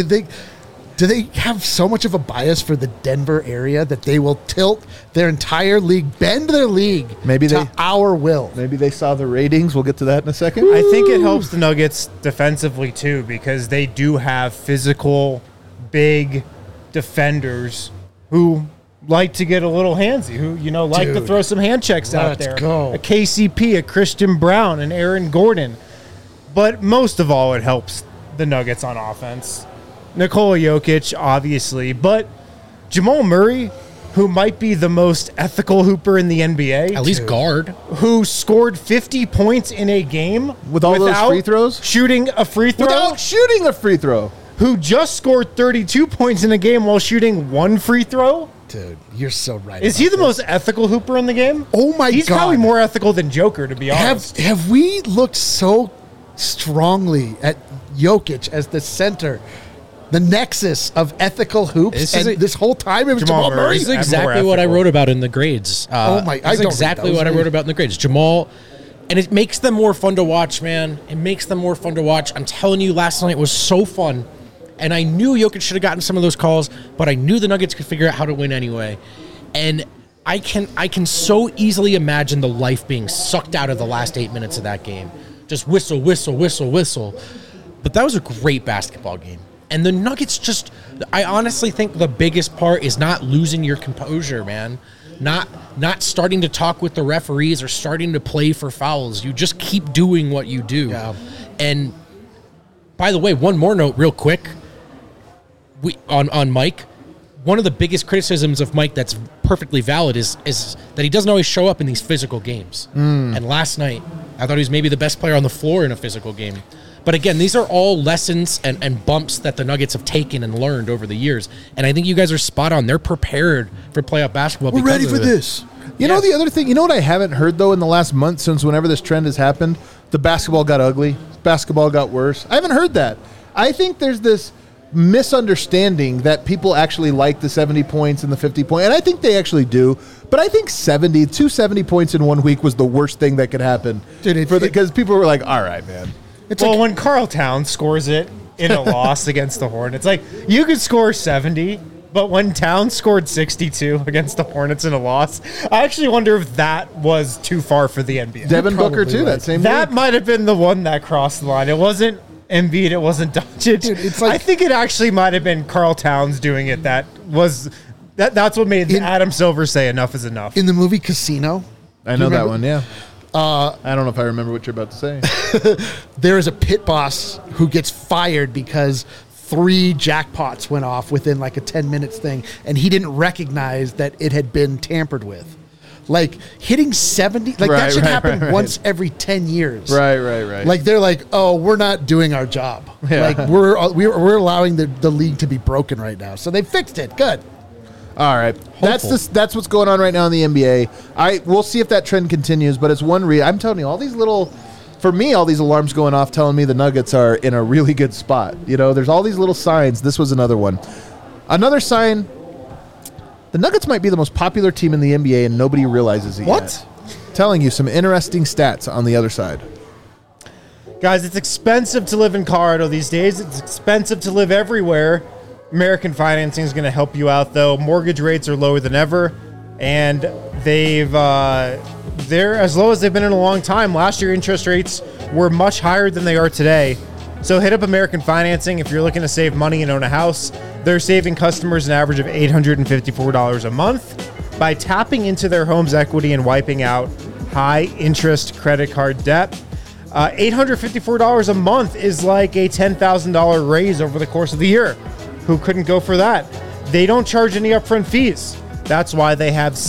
Do they have so much of a bias for the Denver area that they will tilt their entire league, bend their league to our will? Maybe they saw the ratings. We'll get to that in a second. I think it helps the Nuggets defensively, too, because they do have physical, big defenders who like to get a little handsy, who, like to throw some hand checks out there. Go. A KCP, a Christian Brown, an Aaron Gordon. But most of all, it helps the Nuggets on offense. Nikola Jokic, obviously, but Jamal Murray, who might be the most ethical hooper in the NBA. At least guard. Who scored 50 points in a game with all those free throws? Shooting a free throw? Without shooting a free throw. Who just scored 32 points in a game while shooting one free throw? Dude, you're so right. Is he the most ethical hooper in the game? Oh my God. He's probably more ethical than Joker, to be honest. Have we looked so strongly at Jokic as the center The nexus of ethical hoops, this whole time it was Jamal Murray. This is exactly what I wrote about in the grades. That's exactly what I wrote about in the grades. Jamal, and it makes them more fun to watch, man. It makes them more fun to watch. I'm telling you, last night was so fun, and I knew Jokic should have gotten some of those calls, but I knew the Nuggets could figure out how to win anyway. And I can so easily imagine the life being sucked out of the last 8 minutes of that game. Just whistle, whistle, whistle, whistle. But that was a great basketball game. And the Nuggets I honestly think the biggest part is not losing your composure, man. Not starting to talk with the referees or starting to play for fouls. You just keep doing what you do. Yeah. And by the way, one more note real quick. On Mike, one of the biggest criticisms of Mike that's perfectly valid is that he doesn't always show up in these physical games. And last night, I thought he was maybe the best player on the floor in a physical game. But again, these are all lessons and bumps that the Nuggets have taken and learned over the years. And I think you guys are spot on. They're prepared for playoff basketball. We're ready for this. You know, the other thing, what I haven't heard, though, in the last month since whenever this trend has happened, the basketball got ugly. Basketball got worse. I haven't heard that. I think there's this misunderstanding that people actually like the 70 points and the 50 points, and I think they actually do. But I think 270 points in 1 week was the worst thing that could happen. Because people were like, all right, man. When Karl Towns scores it in a loss against the Hornets, like, you could score 70, but when Towns scored 62 against the Hornets in a loss, I actually wonder if that was too far for the NBA. Devin Booker, too, that same That week. might have been the one that crossed the line. It wasn't Embiid, it wasn't Doncic. Dude, I think it actually might have been Karl Towns doing it. That's what made Adam Silver say enough is enough. In the movie Casino. I know that one, yeah. I don't know if I remember what you're about to say. There is a pit boss who gets fired because 3 jackpots went off within like a 10 minutes thing, and he didn't recognize that it had been tampered with. Like, hitting 70, that should happen once every 10 years. Right. Like, they're like, oh, we're not doing our job. Yeah. Like, we're allowing the league to be broken right now. So they fixed it. Good. All right. That's what's going on right now in the NBA. We'll see if that trend continues, but it's one I'm telling you, all these alarms going off telling me the Nuggets are in a really good spot. There's all these little signs. This was another one. Another sign, the Nuggets might be the most popular team in the NBA and nobody realizes it yet. Telling you some interesting stats on the other side. Guys, it's expensive to live in Colorado these days. It's expensive to live everywhere. American Financing is going to help you out, though. Mortgage rates are lower than ever, and they're as low as they've been in a long time. Last year, interest rates were much higher than they are today. So hit up American Financing if you're looking to save money and own a house. They're saving customers an average of $854 a month by tapping into their home's equity and wiping out high-interest credit card debt. $854 a month is like a $10,000 raise over the course of the year. Who couldn't go for that? They don't charge any upfront fees. That's why they have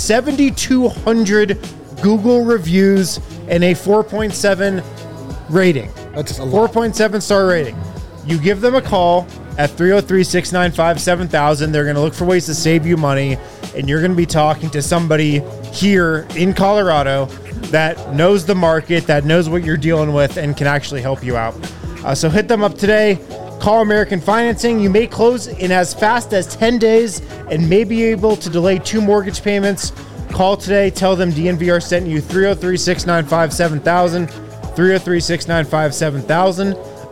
7,200 Google reviews and a 4.7 rating. That's a lot. 4.7 star rating. You give them a call at 303-695-7000. They're going to look for ways to save you money, and you're going to be talking to somebody here in Colorado that knows the market, that knows what you're dealing with, and can actually help you out. So hit them up today. Call American Financing. You may close in as fast as 10 days and may be able to delay 2 mortgage payments. Call today. Tell them DNVR sent you. 303-695-7000. 303-695-7000.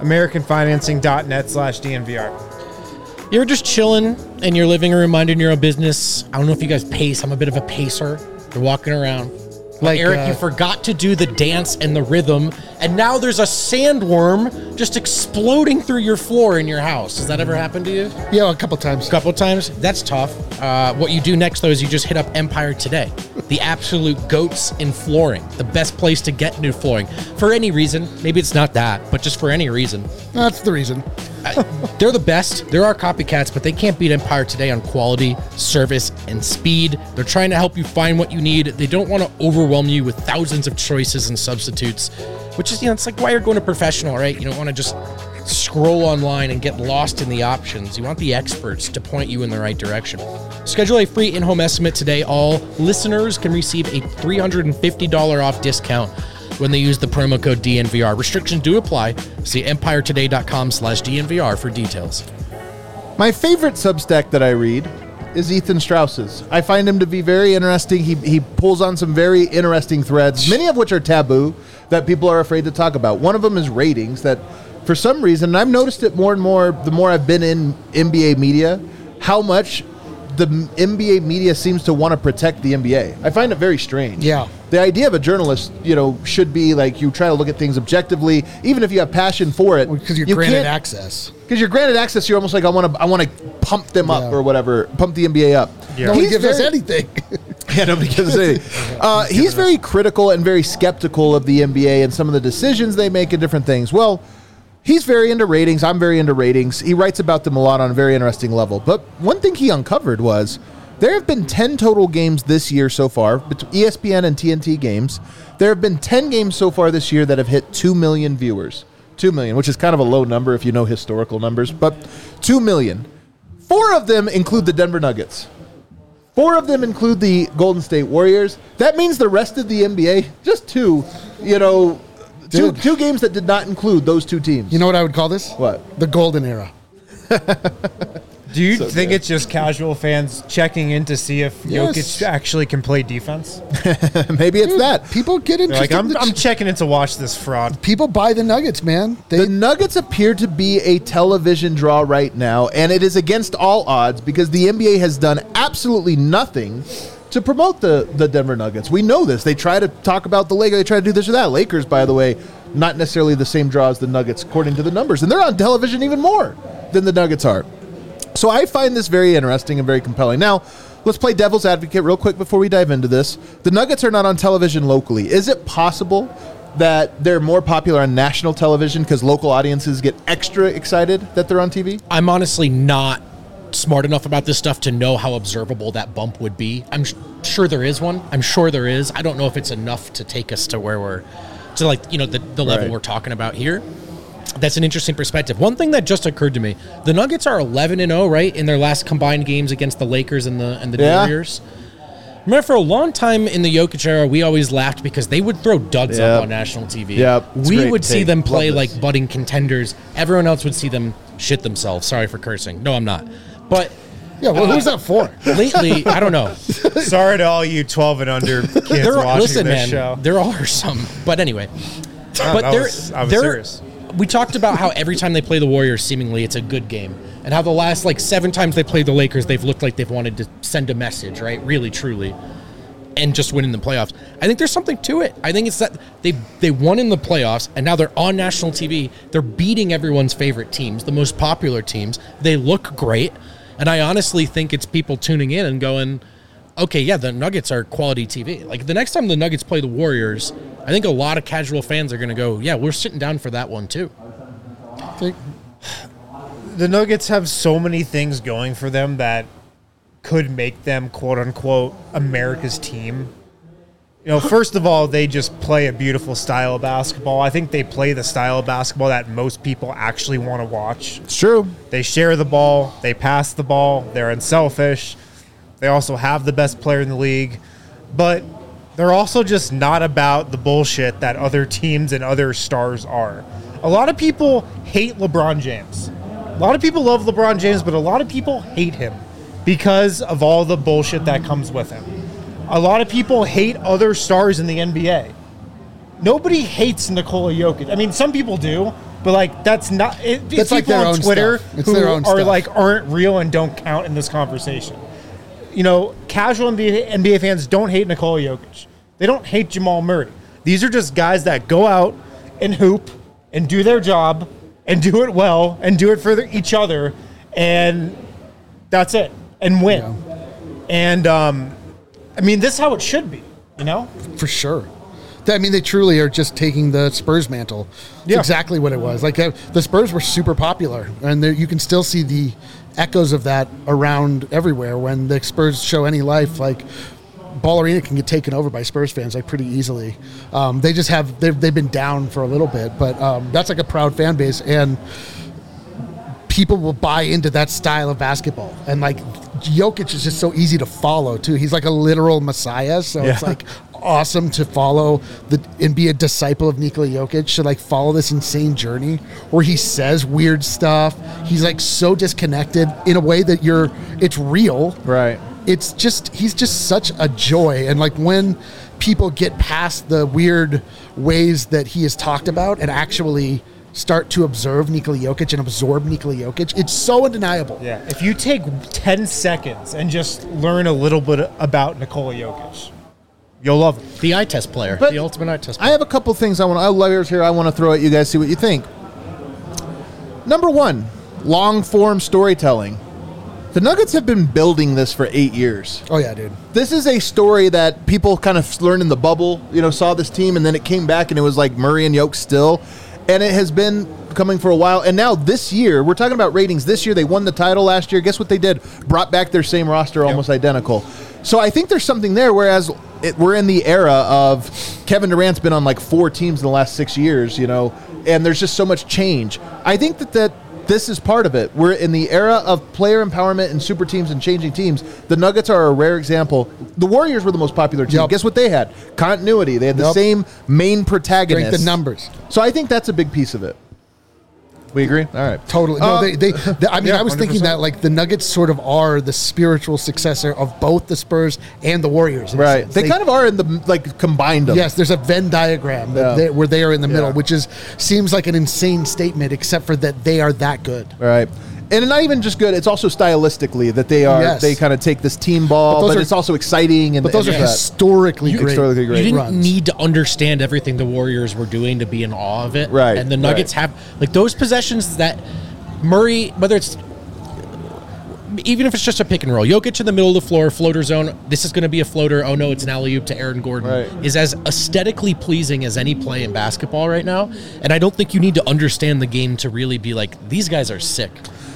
AmericanFinancing.net/DNVR. You're just chilling in your living room, minding your own business. I don't know if you guys pace. I'm a bit of a pacer. You're walking around. Like Eric, you forgot to do the dance and the rhythm, and now there's a sandworm just exploding through your floor in your house. Has that ever happened to you? Yeah, a couple times. That's tough. What you do next, though, is you just hit up Empire Today, the absolute goats in flooring, the best place to get new flooring. For any reason, maybe it's not that, but just for any reason. That's the reason. They're the best. There are copycats, but they can't beat Empire Today on quality, service, and speed. They're trying to help you find what you need. They don't want to overwhelm you with thousands of choices and substitutes, which is, it's like why you're going to professional, right? You don't want to just scroll online and get lost in the options. You want the experts to point you in the right direction. Schedule a free in-home estimate today. All listeners can receive a $350 off discount when they use the promo code DNVR. Restrictions do apply. See EmpireToday.com/DNVR for details. My favorite Substack that I read is Ethan Strauss's. I find him to be very interesting. He pulls on some very interesting threads, many of which are taboo, that people are afraid to talk about. One of them is ratings, that for some reason, and I've noticed it more and more the more I've been in NBA media, how much the NBA media seems to want to protect the NBA. I find it very strange. Yeah. The idea of a journalist, should be like you try to look at things objectively, even if you have passion for it. Because you're granted access. Because you're granted access, you're almost like, I want to pump them up or whatever, pump the NBA up. Yeah. Nobody gives us anything. Yeah, nobody gives us anything. He's very critical and very skeptical of the NBA and some of the decisions they make and different things. Well, he's very into ratings. I'm very into ratings. He writes about them a lot on a very interesting level. But one thing he uncovered was there have been 10 total games this year so far, ESPN and TNT games. There have been 10 games so far this year that have hit 2 million viewers. 2 million, which is kind of a low number if you know historical numbers, but 2 million. 4 of them include the Denver Nuggets. 4 of them include the Golden State Warriors. That means the rest of the NBA, just 2, two games that did not include those 2 teams. You know what I would call this? What? The golden era. Do you think it's just casual fans checking in to see if Yes. Jokic actually can play defense? Maybe it's that. People get They're like, interested. I'm checking in to watch this fraud. People buy the Nuggets, man. The Nuggets appear to be a television draw right now, and it is against all odds because the NBA has done absolutely nothing to promote the Denver Nuggets. We know this. They try to talk about the Lakers. They try to do this or that. Lakers, by the way, not necessarily the same draw as the Nuggets according to the numbers, and they're on television even more than the Nuggets are. So I find this very interesting and very compelling. Now, let's play devil's advocate real quick before we dive into this. The Nuggets are not on television locally. Is it possible that they're more popular on national television because local audiences get extra excited that they're on TV? I'm honestly not smart enough about this stuff to know how observable that bump would be. I'm sure there is one. I'm sure there is. I don't know if it's enough to take us to where we're, to like, the level we're talking about here. That's an interesting perspective. One thing that just occurred to me, the Nuggets are 11-0, right, in their last combined games against the Lakers and the Warriors. Remember, for a long time in the Jokic era, we always laughed because they would throw duds up on national TV. We would see them play like budding contenders. Everyone else would see them shit themselves. Sorry for cursing. No, I'm not. But yeah, well, who's that for? Lately, I don't know. Sorry to all you 12 and under kids watching this show. There are some. But anyway. I was serious. We talked about how every time they play the Warriors, seemingly it's a good game. And how the last 7 times they played the Lakers, they've looked like they've wanted to send a message, right? Really, truly. And just win in the playoffs. I think there's something to it. I think it's that they won in the playoffs, and now they're on national TV. They're beating everyone's favorite teams, the most popular teams. They look great. And I honestly think it's people tuning in and going, okay, yeah, the Nuggets are quality TV. Like, the next time the Nuggets play the Warriors, I think a lot of casual fans are going to go, yeah, we're sitting down for that one, too. The Nuggets have so many things going for them that could make them, quote-unquote, America's team. First of all, they just play a beautiful style of basketball. I think they play the style of basketball that most people actually want to watch. It's true. They share the ball. They pass the ball. They're unselfish. They also have the best player in the league. But they're also just not about the bullshit that other teams and other stars are. A lot of people hate LeBron James. A lot of people love LeBron James, but a lot of people hate him because of all the bullshit that comes with him. A lot of people hate other stars in the NBA. Nobody hates Nikola Jokic. I mean, some people do, but that's not. It's people like their on own Twitter stuff. It's who their own are stuff. aren't real and don't count in this conversation. Casual NBA fans don't hate Nikola Jokic. They don't hate Jamal Murray. These are just guys that go out and hoop and do their job and do it well and do it for each other, and that's it, and win. Yeah. And this is how it should be, For sure. They truly are just taking the Spurs mantle. It's exactly what it was. The Spurs were super popular, and you can still see the echoes of that around everywhere. When the Spurs show any life, Ball Arena can get taken over by Spurs fans pretty easily. They've been down for a little bit, but that's a proud fan base, and people will buy into that style of basketball. And Jokic is just so easy to follow too. He's like a literal messiah, so it's like awesome to follow and be a disciple of Nikola Jokic, to like follow this insane journey where he says weird stuff. He's like so disconnected in a way that it's real. Right. It's just, he's just such a joy. And like when people get past the weird ways that he has talked about and actually start to observe Nikola Jokic and absorb Nikola Jokic, it's so undeniable. Yeah. If you take 10 seconds and just learn a little bit about Nikola Jokic, you'll love it. The eye test player. The ultimate eye test player. I have a couple things I want to throw at you guys, see what you think. Number one, long form storytelling. The Nuggets have been building this for 8 years. Oh yeah, dude. This is a story that people kind of learned in the bubble, saw this team, and then it came back and it was like Murray and Jokic still. And it has been coming for a while. And now this year, we're talking about ratings. This year, they won the title last year. Guess what they did? Brought back their same roster, almost identical. So I think there's something there, whereas we're in the era of Kevin Durant's been on like 4 teams in the last 6 years, and there's just so much change. I think that this is part of it. We're in the era of player empowerment and super teams and changing teams. The Nuggets are a rare example. The Warriors were the most popular team. Yep. Guess what they had? Continuity. They had the same main protagonist. Strength in numbers. So I think that's a big piece of it. We agree? All right. Totally. No, I was 100%. thinking that like the Nuggets sort of are the spiritual successor of both the Spurs and the Warriors. in a Right. sense. They kind of are in the, like, combined them. Yes, there's a Venn diagram where they are in the middle, which seems like an insane statement, except for that they are that good. Right. And not even just good, it's also stylistically that they kind of take this team ball, but it's also exciting. But those are historically great. Historically great. You didn't runs. need to understand everything the Warriors were doing to be in awe of it. Right, And the Nuggets have, like, those possessions that Murray, whether it's, even if it's just a pick and roll, Jokic in the middle of the floor, floater zone, this is going to be a floater, oh no, it's an alley-oop to Aaron Gordon, is as aesthetically pleasing as any play in basketball right now. And I don't think you need to understand the game to really be like, these guys are sick.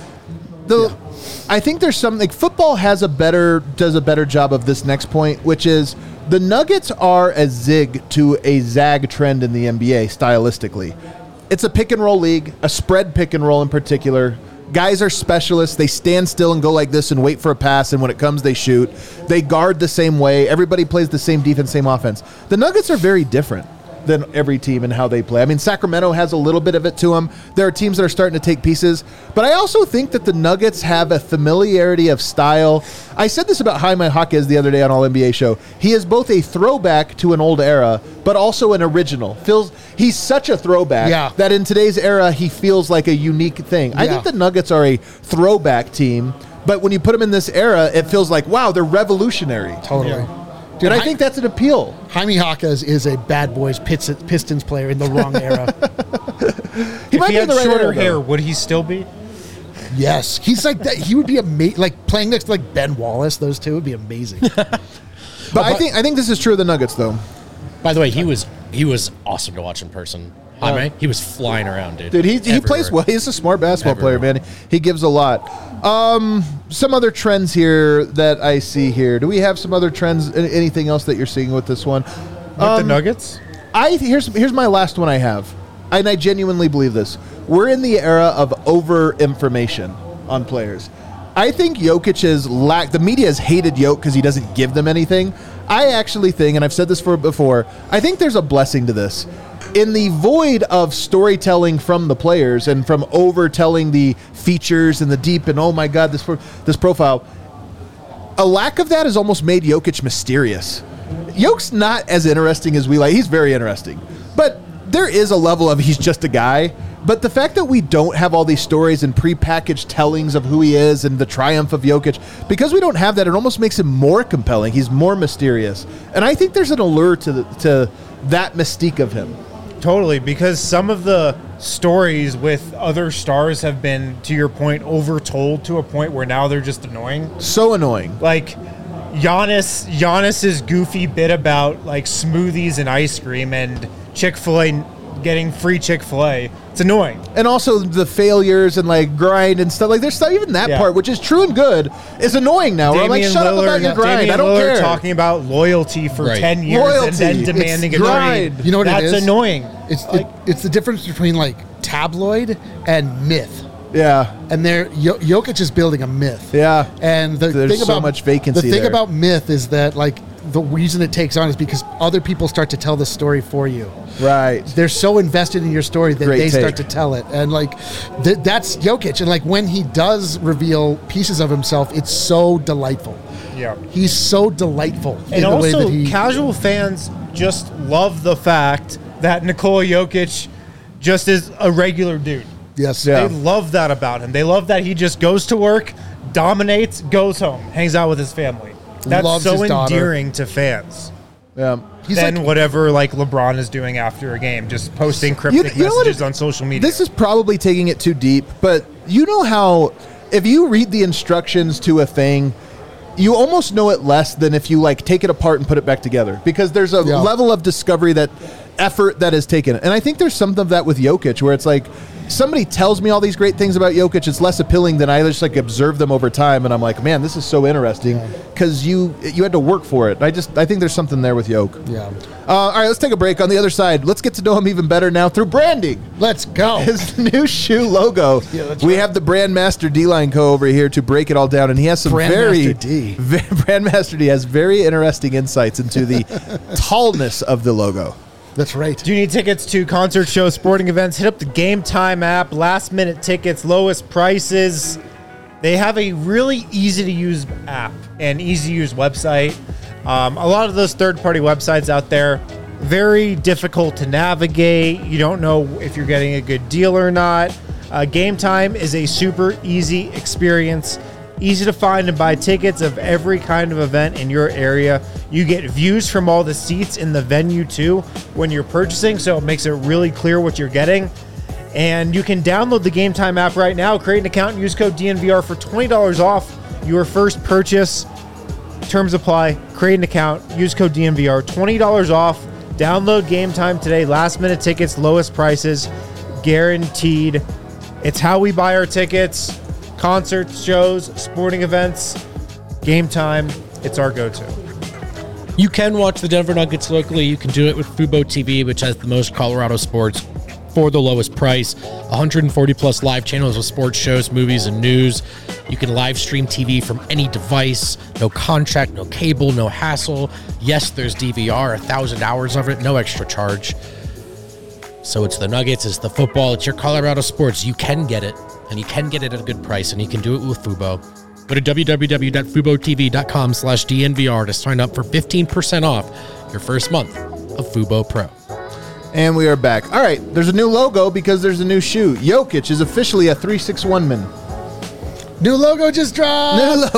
I think there's something, like, football does a better job of this next point, which is the Nuggets are a zig to a zag trend in the NBA stylistically. It's a pick and roll league, a spread pick and roll in particular. Guys are specialists. They stand still and go like this and wait for a pass, and when it comes, they shoot. They guard the same way. Everybody plays the same defense, same offense. The Nuggets are very different than every team and how they play. I mean, Sacramento has a little bit of it to them. There are teams that are starting to take pieces, but I also think that the Nuggets have a familiarity of style. I said this about Jaime Jaquez the other day on All NBA Show. He is both a throwback to an old era, but also an original. He's such a throwback that in today's era, he feels like a unique thing. I think the Nuggets are a throwback team, but when you put them in this era, it feels like, wow, they're revolutionary. Totally. Yeah. Dude, I think that's an appeal. Jaime Jaquez is a bad boys Pistons player in the wrong era. If he had shorter hair, would he still be? Yes. He's like that. He would be amazing. Like playing next to like Ben Wallace, those two would be amazing. But I think this is true of the Nuggets, though. By the way, he was awesome to watch in person. Jaime, he was flying around, dude. Dude, he plays well. He's a smart basketball player, man. He gives a lot. Some other trends here that I see here. Do we have some other trends? Anything else that you're seeing with this one? With the Nuggets? Here's my last one I have. And I genuinely believe this. We're in the era of over-information on players. I think Jokic the media has hated Jokic because he doesn't give them anything. I actually think, and I've said this before, I think there's a blessing to this. In the void of storytelling from the players and from overtelling the features and the deep and, oh my God, this profile, a lack of that has almost made Jokic mysterious. Jokic's not as interesting as we like. He's very interesting. But there is a level of he's just a guy. But the fact that we don't have all these stories and prepackaged tellings of who he is and the triumph of Jokic, because we don't have that, it almost makes him more compelling. He's more mysterious. And I think there's an allure to that mystique of him. Totally, because some of the stories with other stars have been, to your point, overtold to a point where now they're just annoying. So annoying. Like Giannis's goofy bit about like smoothies and ice cream and Chick-fil-A getting free Chick-fil-A. It's annoying. And also the failures and like grind and stuff. Like there's stuff, even that part, which is true and good, is annoying now. Where I'm like, shut up about your grind. Damian I don't Lillard care. talking about loyalty for 10 years and then demanding a trade. You know what it is? That's annoying. It's the difference between like tabloid and myth. Yeah. And Jokic is building a myth. Yeah. And there's thing so about much vacancy The thing there. about myth is that like the reason it takes on is because other people start to tell the story for you. Right. They're so invested in your story that Great they take. start to tell it. And like that's Jokic. And like when he does reveal pieces of himself, it's so delightful. Yeah. He's so delightful in And the way also, that he casual fans just love the fact that Nikola Jokic just is a regular dude. Yes. Yeah. They love that about him. They love that he just goes to work, dominates, goes home, hangs out with his family. That's Loves so his daughter. endearing to fans. Yeah. He's Then like, whatever like LeBron is doing after a game, just posting cryptic You know what messages on social media. This is probably taking it too deep, but you know how if you read the instructions to a thing, you almost know it less than if you like take it apart and put it back together, because there's a level of discovery, that effort that is taken. And I think there's something of that with Jokic, where it's like somebody tells me all these great things about Jokic, it's less appealing than I just like observe them over time, and I'm like, man, this is so interesting because you had to work for it. I think there's something there with Jokic. yeah. All right, let's take a break. On the other side, let's get to know him even better now through branding. Let's go. His new shoe logo. Yeah, that's we right. have the Brandmaster D-Line Co. over here to break it all down, and he has some Brandmaster D. Brandmaster D has very interesting insights into the tallness of the logo. That's right. Do you need tickets to concert shows, sporting events? Hit up the Game Time app. Last minute tickets, lowest prices. They have a really easy to use app and easy to use website. A lot of those third party websites out there, very difficult to navigate. You don't know if you're getting a good deal or not. Game Time is a super easy experience. Easy to find and buy tickets of every kind of event in your area. You get views from all the seats in the venue too when you're purchasing, so it makes it really clear what you're getting. And you can download the Game Time app right now, create an account, and use code DNVR for $20 off your first purchase. Terms apply. Create an account, use code DNVR, $20 off. Download Game Time today. Last minute tickets, lowest prices, guaranteed. It's how we buy our tickets. Concerts, shows, sporting events, Game Time, it's our go-to. You can watch the Denver Nuggets locally. You can do it with Fubo TV, which has the most Colorado sports for the lowest price. 140 plus live channels with sports shows, movies, and news. You can live stream TV from any device. No contract, no cable, no hassle. Yes, there's DVR, 1,000 hours of it, no extra charge. So it's the Nuggets, it's the football, it's your Colorado sports. You can get it, and you can get it at a good price, and you can do it with Fubo. Go to www.fubotv.com/DNVR to sign up for 15% off your first month of Fubo Pro. And we are back. All right, there's a new logo because there's a new shoe. Jokic is officially a 361 man. New logo just dropped.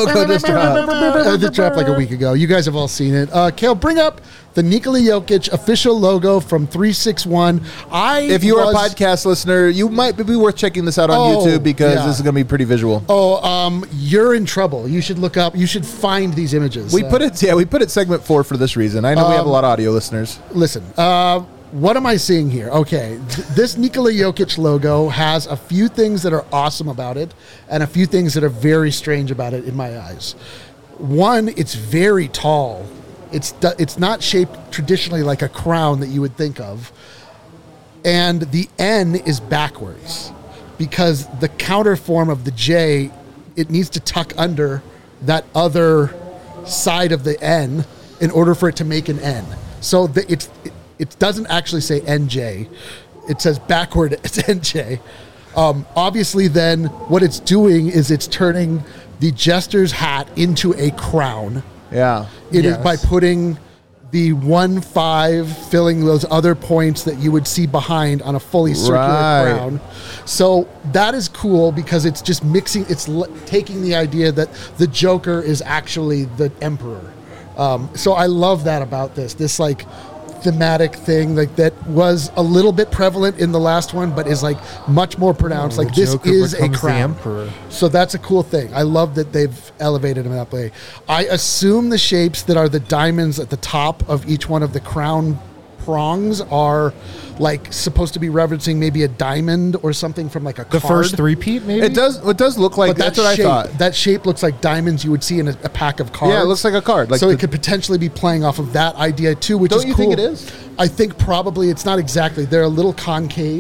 It dropped like a week ago. You guys have all seen it. Kale, bring up the Nikola Jokic official logo from 361. If you are a podcast listener, you might be worth checking this out on YouTube because this is going to be pretty visual. You're in trouble. You should look up. You should find these images. We put it segment 4 for this reason. I know we have a lot of audio listeners. Listen, what am I seeing here? Okay, this Nikola Jokic logo has a few things that are awesome about it and a few things that are very strange about it in my eyes. One, it's very tall. It's not shaped traditionally like a crown that you would think of. And the N is backwards because the counter form of the J, it needs to tuck under that other side of the N in order for it to make an N. So it doesn't actually say NJ. It says backward, it's NJ. Obviously, then, what it's doing is it's turning the jester's hat into a crown. Yeah. It is by putting the 1-5, filling those other points that you would see behind on a fully circular crown. So that is cool because it's just mixing, taking the idea that the Joker is actually the Emperor. So I love that about this like thematic thing like that was a little bit prevalent in the last one, but is like much more pronounced. Like this Joker is a becomes the crown. Emperor. So that's a cool thing. I love that they've elevated him that way. I assume the shapes that are the diamonds at the top of each one of the crown prongs are like supposed to be referencing maybe a diamond or something from like a The card. first three-peat, maybe? It does look like But that's what shape, I thought. that shape looks like diamonds you would see in a pack of cards. Yeah, it looks like a card. Like so it could potentially be playing off of that idea too, which is Don't you cool. think it is? I think probably it's not exactly. They're a little concave.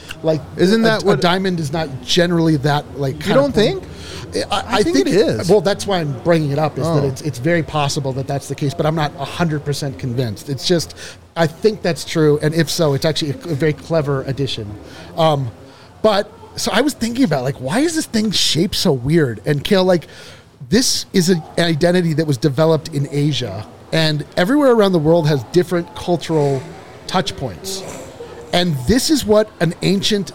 Like, isn't that a diamond is not generally that like? You don't think? I think it is. Well, that's why I'm bringing it up. Is that it's very possible that that's the case, but I'm not 100% convinced. It's just I think that's true, and if so, it's actually a very clever addition. But so I was thinking about like, why is this thing shaped so weird? And Kale, like, this is an identity that was developed in Asia, and everywhere around the world has different cultural touch points. And this is what an ancient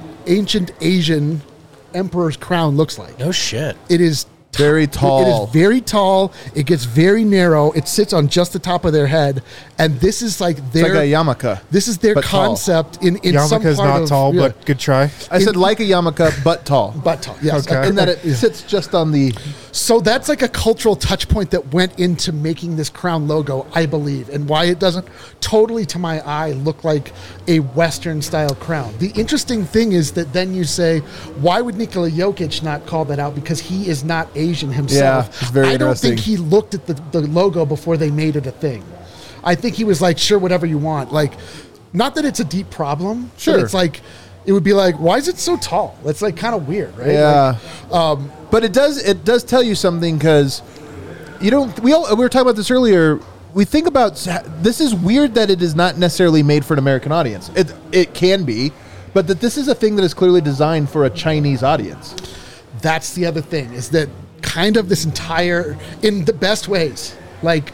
Asian emperor's crown looks like. No shit. It is very tall. It is very tall. It gets very narrow. It sits on just the top of their head, and this is like their it's like a yarmulke. This is their but concept in some Yarmulke's part not of, tall, but good try. I said like a yarmulke, but tall. But tall, yes. Okay. In that it sits just on the. So that's like a cultural touch point that went into making this crown logo, I believe, and why it doesn't totally, to my eye, look like a Western style crown. The interesting thing is that then you say, why would Nikola Jokic not call that out? Because he is not Asian himself. Yeah, it's very I don't interesting. think he looked at the logo before they made it a thing. I think he was like, sure, whatever you want. Like, not that it's a deep problem. Sure. But it's like, it would be like, why is it so tall? It's like kind of weird, right? Yeah. Like, But it does tell you something because we were talking about this earlier. We think about this is weird that it is not necessarily made for an American audience. It can be, but that this is a thing that is clearly designed for a Chinese audience. That's the other thing, is that kind of this entire, in the best ways, like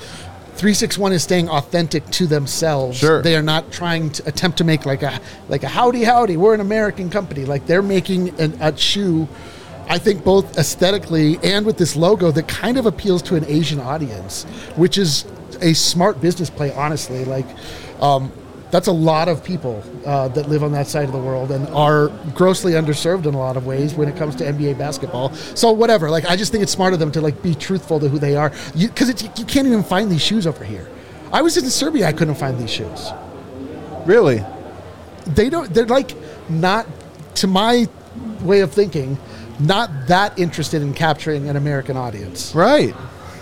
361 is staying authentic to themselves. Sure. They are not trying to attempt to make like a howdy, we're an American company. Like they're making a shoe, I think, both aesthetically and with this logo that kind of appeals to an Asian audience, which is a smart business play, honestly. Like, that's a lot of people that live on that side of the world and are grossly underserved in a lot of ways when it comes to NBA basketball. So whatever, like, I just think it's smart of them to like be truthful to who they are, because you can't even find these shoes over here. I was in Serbia, I couldn't find these shoes. Really? They're like not, to my way of thinking, not that interested in capturing an American audience. Right.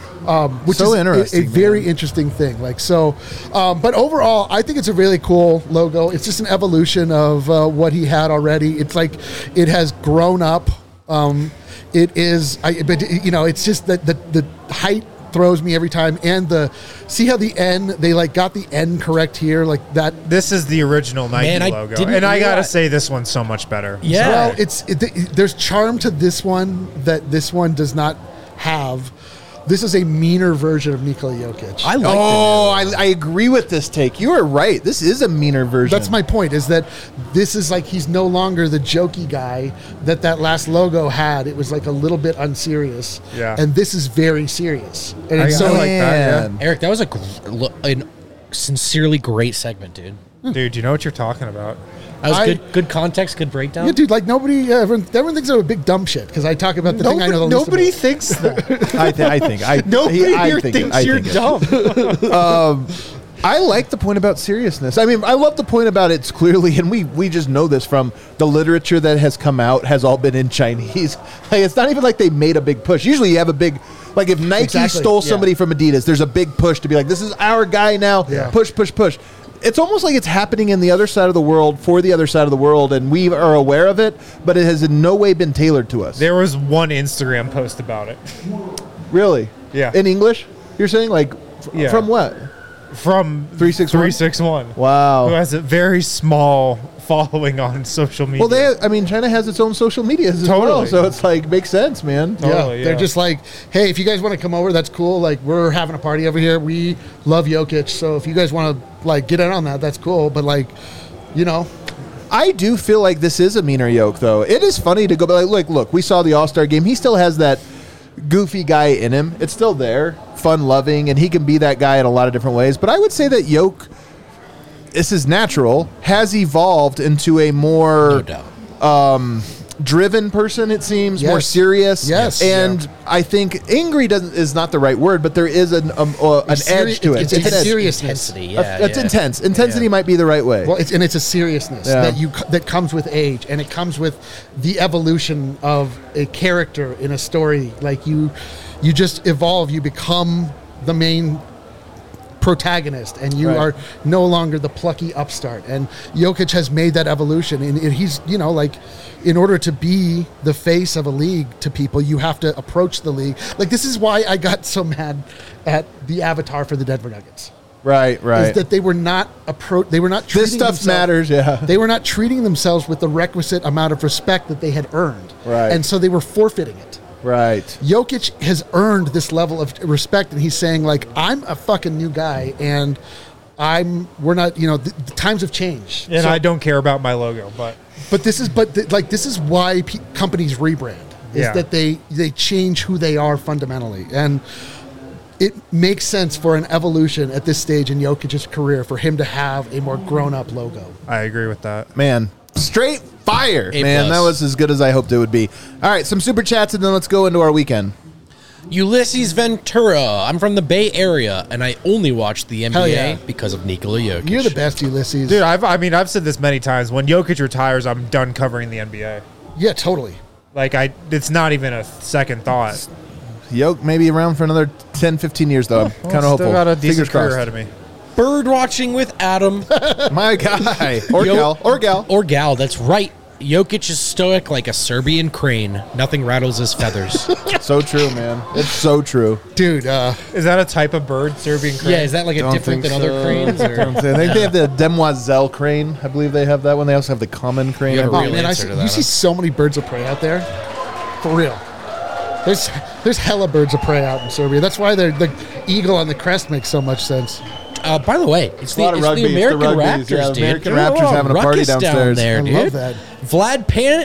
Which so is interesting, a very interesting thing. Like, so, but overall, I think it's a really cool logo. It's just an evolution of what he had already. It's like it has grown up. It is, but you know, it's just that the height throws me every time, and see how the N, they like got the N correct here, like that. This is the original Nike logo, and I gotta say this one's so much better. Yeah. Well, there's charm to this one that this one does not have. This is a meaner version of Nikola Jokic. I agree with this take. You are right. This is a meaner version. That's my point, is that this is like, he's no longer the jokey guy that last logo had. It was like a little bit unserious. Yeah. And this is very serious. And I it's so like like that, Eric, that was a sincerely great segment, dude. Dude, you know what you're talking about. That was good context, good breakdown. yeah, dude, like everyone thinks I'm a big dumb shit because I talk about the thing I know the least Nobody about. thinks that. I think. Nobody here think thinks I you're think dumb. I like the point about seriousness. I mean, I love the point about it's clearly, and we just know this from the literature that has come out, has all been in Chinese. Like, it's not even like they made a big push. Usually you have a big, like if Nike Exactly, stole yeah. somebody from Adidas, there's a big push to be like, this is our guy now. Yeah. Push. It's almost like it's happening in the other side of the world for the other side of the world, and we are aware of it, but it has in no way been tailored to us. There was one Instagram post about it. Really? Yeah. In English? You're saying like Yeah. from what? From 361? 361. Wow. Who has a very small following on social media. Well, China has its own social medias as well, Totally. so it's like makes sense, man. Totally, They're yeah. just like, hey, if you guys want to come over, that's cool. Like, we're having a party over here. We love Jokic, so if you guys want to like get in on that, that's cool. But like, you know, I do feel like this is a meaner yoke, though. It is funny to go, but like, look, we saw the All-Star game. He still has that goofy guy in him. It's still there, fun-loving, and he can be that guy in a lot of different ways. But I would say that Yoke, this is natural, has evolved into a more No doubt. driven person, it seems, Yes. more serious. Yes. And I think angry is not the right word, but there is an edge to it. It's a an edge. seriousness. Intensity, That's yeah. intense. Intensity Yeah. might be the right way. Well, it's a seriousness Yeah. that comes with age, and it comes with the evolution of a character in a story. Like you just evolve. You become the main protagonist, and you are no longer the plucky upstart. And Jokic has made that evolution, and he's, you know, like, in order to be the face of a league to people, you have to approach the league. Like, this is why I got so mad at the avatar for the Denver Nuggets. Right. Is that they were not treating this stuff matters, They were not treating themselves with the requisite amount of respect that they had earned. Right. And so they were forfeiting it. Right. Jokic has earned this level of respect, and he's saying, like, I'm a fucking new guy, and we're not, you know, the times have changed. And I don't care about my logo, but this is why companies rebrand, is that they change who they are fundamentally. And it makes sense for an evolution at this stage in Jokic's career for him to have a more grown-up logo. I agree with that. Man, straight fire, A+. man. That was as good as I hoped it would be. All right, some super chats, and then let's go into our weekend. Ulysses Ventura. I'm from the Bay Area, and I only watch the Hell NBA yeah. because of Nikola Jokic. You're the best, Ulysses. Dude, I've said this many times. When Jokic retires, I'm done covering the NBA. Yeah, totally. Like, it's not even a second thought. Yoke maybe around for another 10, 15 years, though. I'm kind of hopeful. Still got a Fingers decent career crossed. ahead of me. Bird watching with Adam. My guy. Or Yo- gal. Or gal, that's right. Jokic is stoic like a Serbian crane. Nothing rattles his feathers. So true, man. It's so true. Dude, Is that a type of bird, Serbian crane? Yeah, is that like a Don't different think than other so. cranes? I Or? think they have the Demoiselle crane. I believe they have that one. They also have the common crane. You have a I real believe. man, answer to that, you see huh? so many birds of prey out there. For real. There's hella birds of prey out in Serbia. That's why the eagle on the crest makes so much sense. By the way, it's a lot the of rugby. It's the American rugbies. Raptors, Yeah, dude. American They're Raptors having a party ruckus down downstairs. there, I dude. love that. Vlad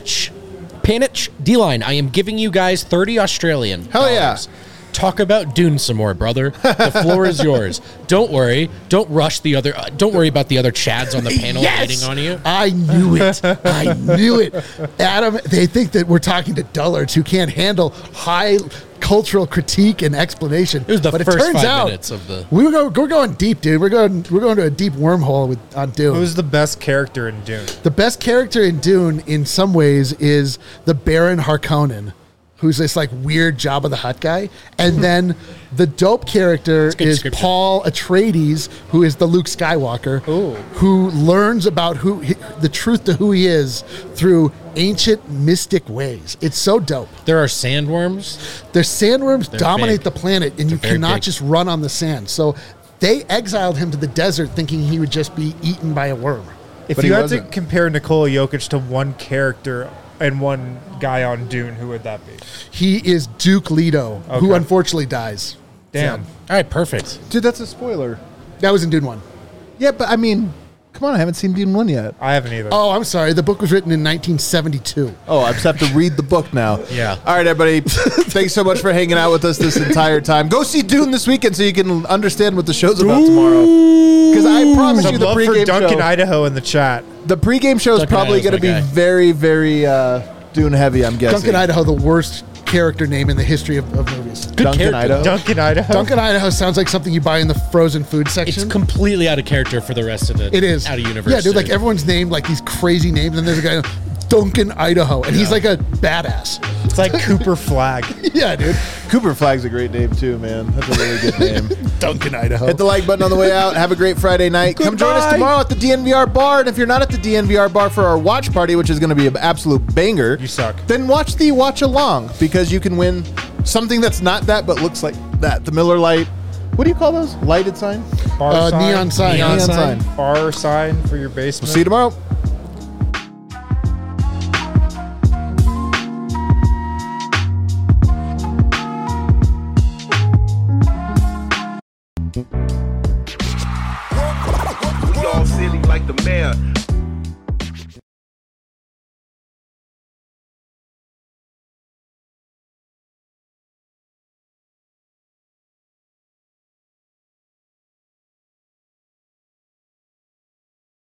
Panic, D-line. I am giving you guys 30 Australian. Hell yeah. dollars. Talk about Dune some more, brother. The floor is yours. Don't worry. Don't rush the other. Don't worry about the other Chads on the panel waiting on you. I knew it. I knew it. Adam, they think that we're talking to dullards who can't handle high cultural critique and explanation. It was the but first it turns 5 out minutes of the. we're going deep, dude. We're going to a deep wormhole on Dune. Who's the best character in Dune? The best character in Dune, in some ways, is the Baron Harkonnen, who's this like weird Jabba the Hutt guy, and then the dope character good is description. Paul Atreides, who is the Luke Skywalker, who learns about the truth to who he is through ancient mystic ways. It's so dope. There are sandworms. The sandworms dominate big. the planet, and you very cannot big. just run on the sand. So they exiled him to the desert, thinking he would just be eaten by a worm. If But you he had wasn't. to compare Nikola Jokic to one character and one guy on Dune, who would that be? He is Duke Leto, who Okay. unfortunately dies. Damn. All right, perfect. Dude, that's a spoiler. That was in Dune 1. Yeah, but I mean, come on. I haven't seen Dune 1 yet. I haven't either. Oh, I'm sorry. The book was written in 1972. Oh, I just have to read the book now. Yeah. All right, everybody. Thanks so much for hanging out with us this entire time. Go see Dune this weekend so you can understand what the show's about tomorrow. Because I promise Some you the love for pregame Duncan, show. Idaho in the chat. The pregame show is Duncan probably Idaho's going to my be guy. very, very Dune heavy, I'm guessing. Duncan, Idaho, the worst character name in the history of movies. Good Duncan, character. Idaho. Duncan, Idaho. Duncan, Idaho sounds like something you buy in the frozen food It's section. completely out of character for the rest of the. It is. out of universe. Yeah, dude, like too. everyone's named like these crazy names, and there's a guy, Duncan, Idaho, and he's like a badass. It's like Cooper Flag. Yeah, dude. Cooper Flag's a great name, too, man. That's a really good name. Duncan, Idaho. Hit the like button on the way out. Have a great Friday night. Come join us Goodbye. tomorrow at the DNVR bar. And if you're not at the DNVR bar for our watch party, which is going to be an absolute banger, You suck. then watch the watch along because you can win something that's not that but looks like that. The Miller Lite. What do you call those? Lighted sign? Bar sign. neon sign. Neon Neon sign. sign. Bar sign for your basement. See you tomorrow. We all silly like the mayor.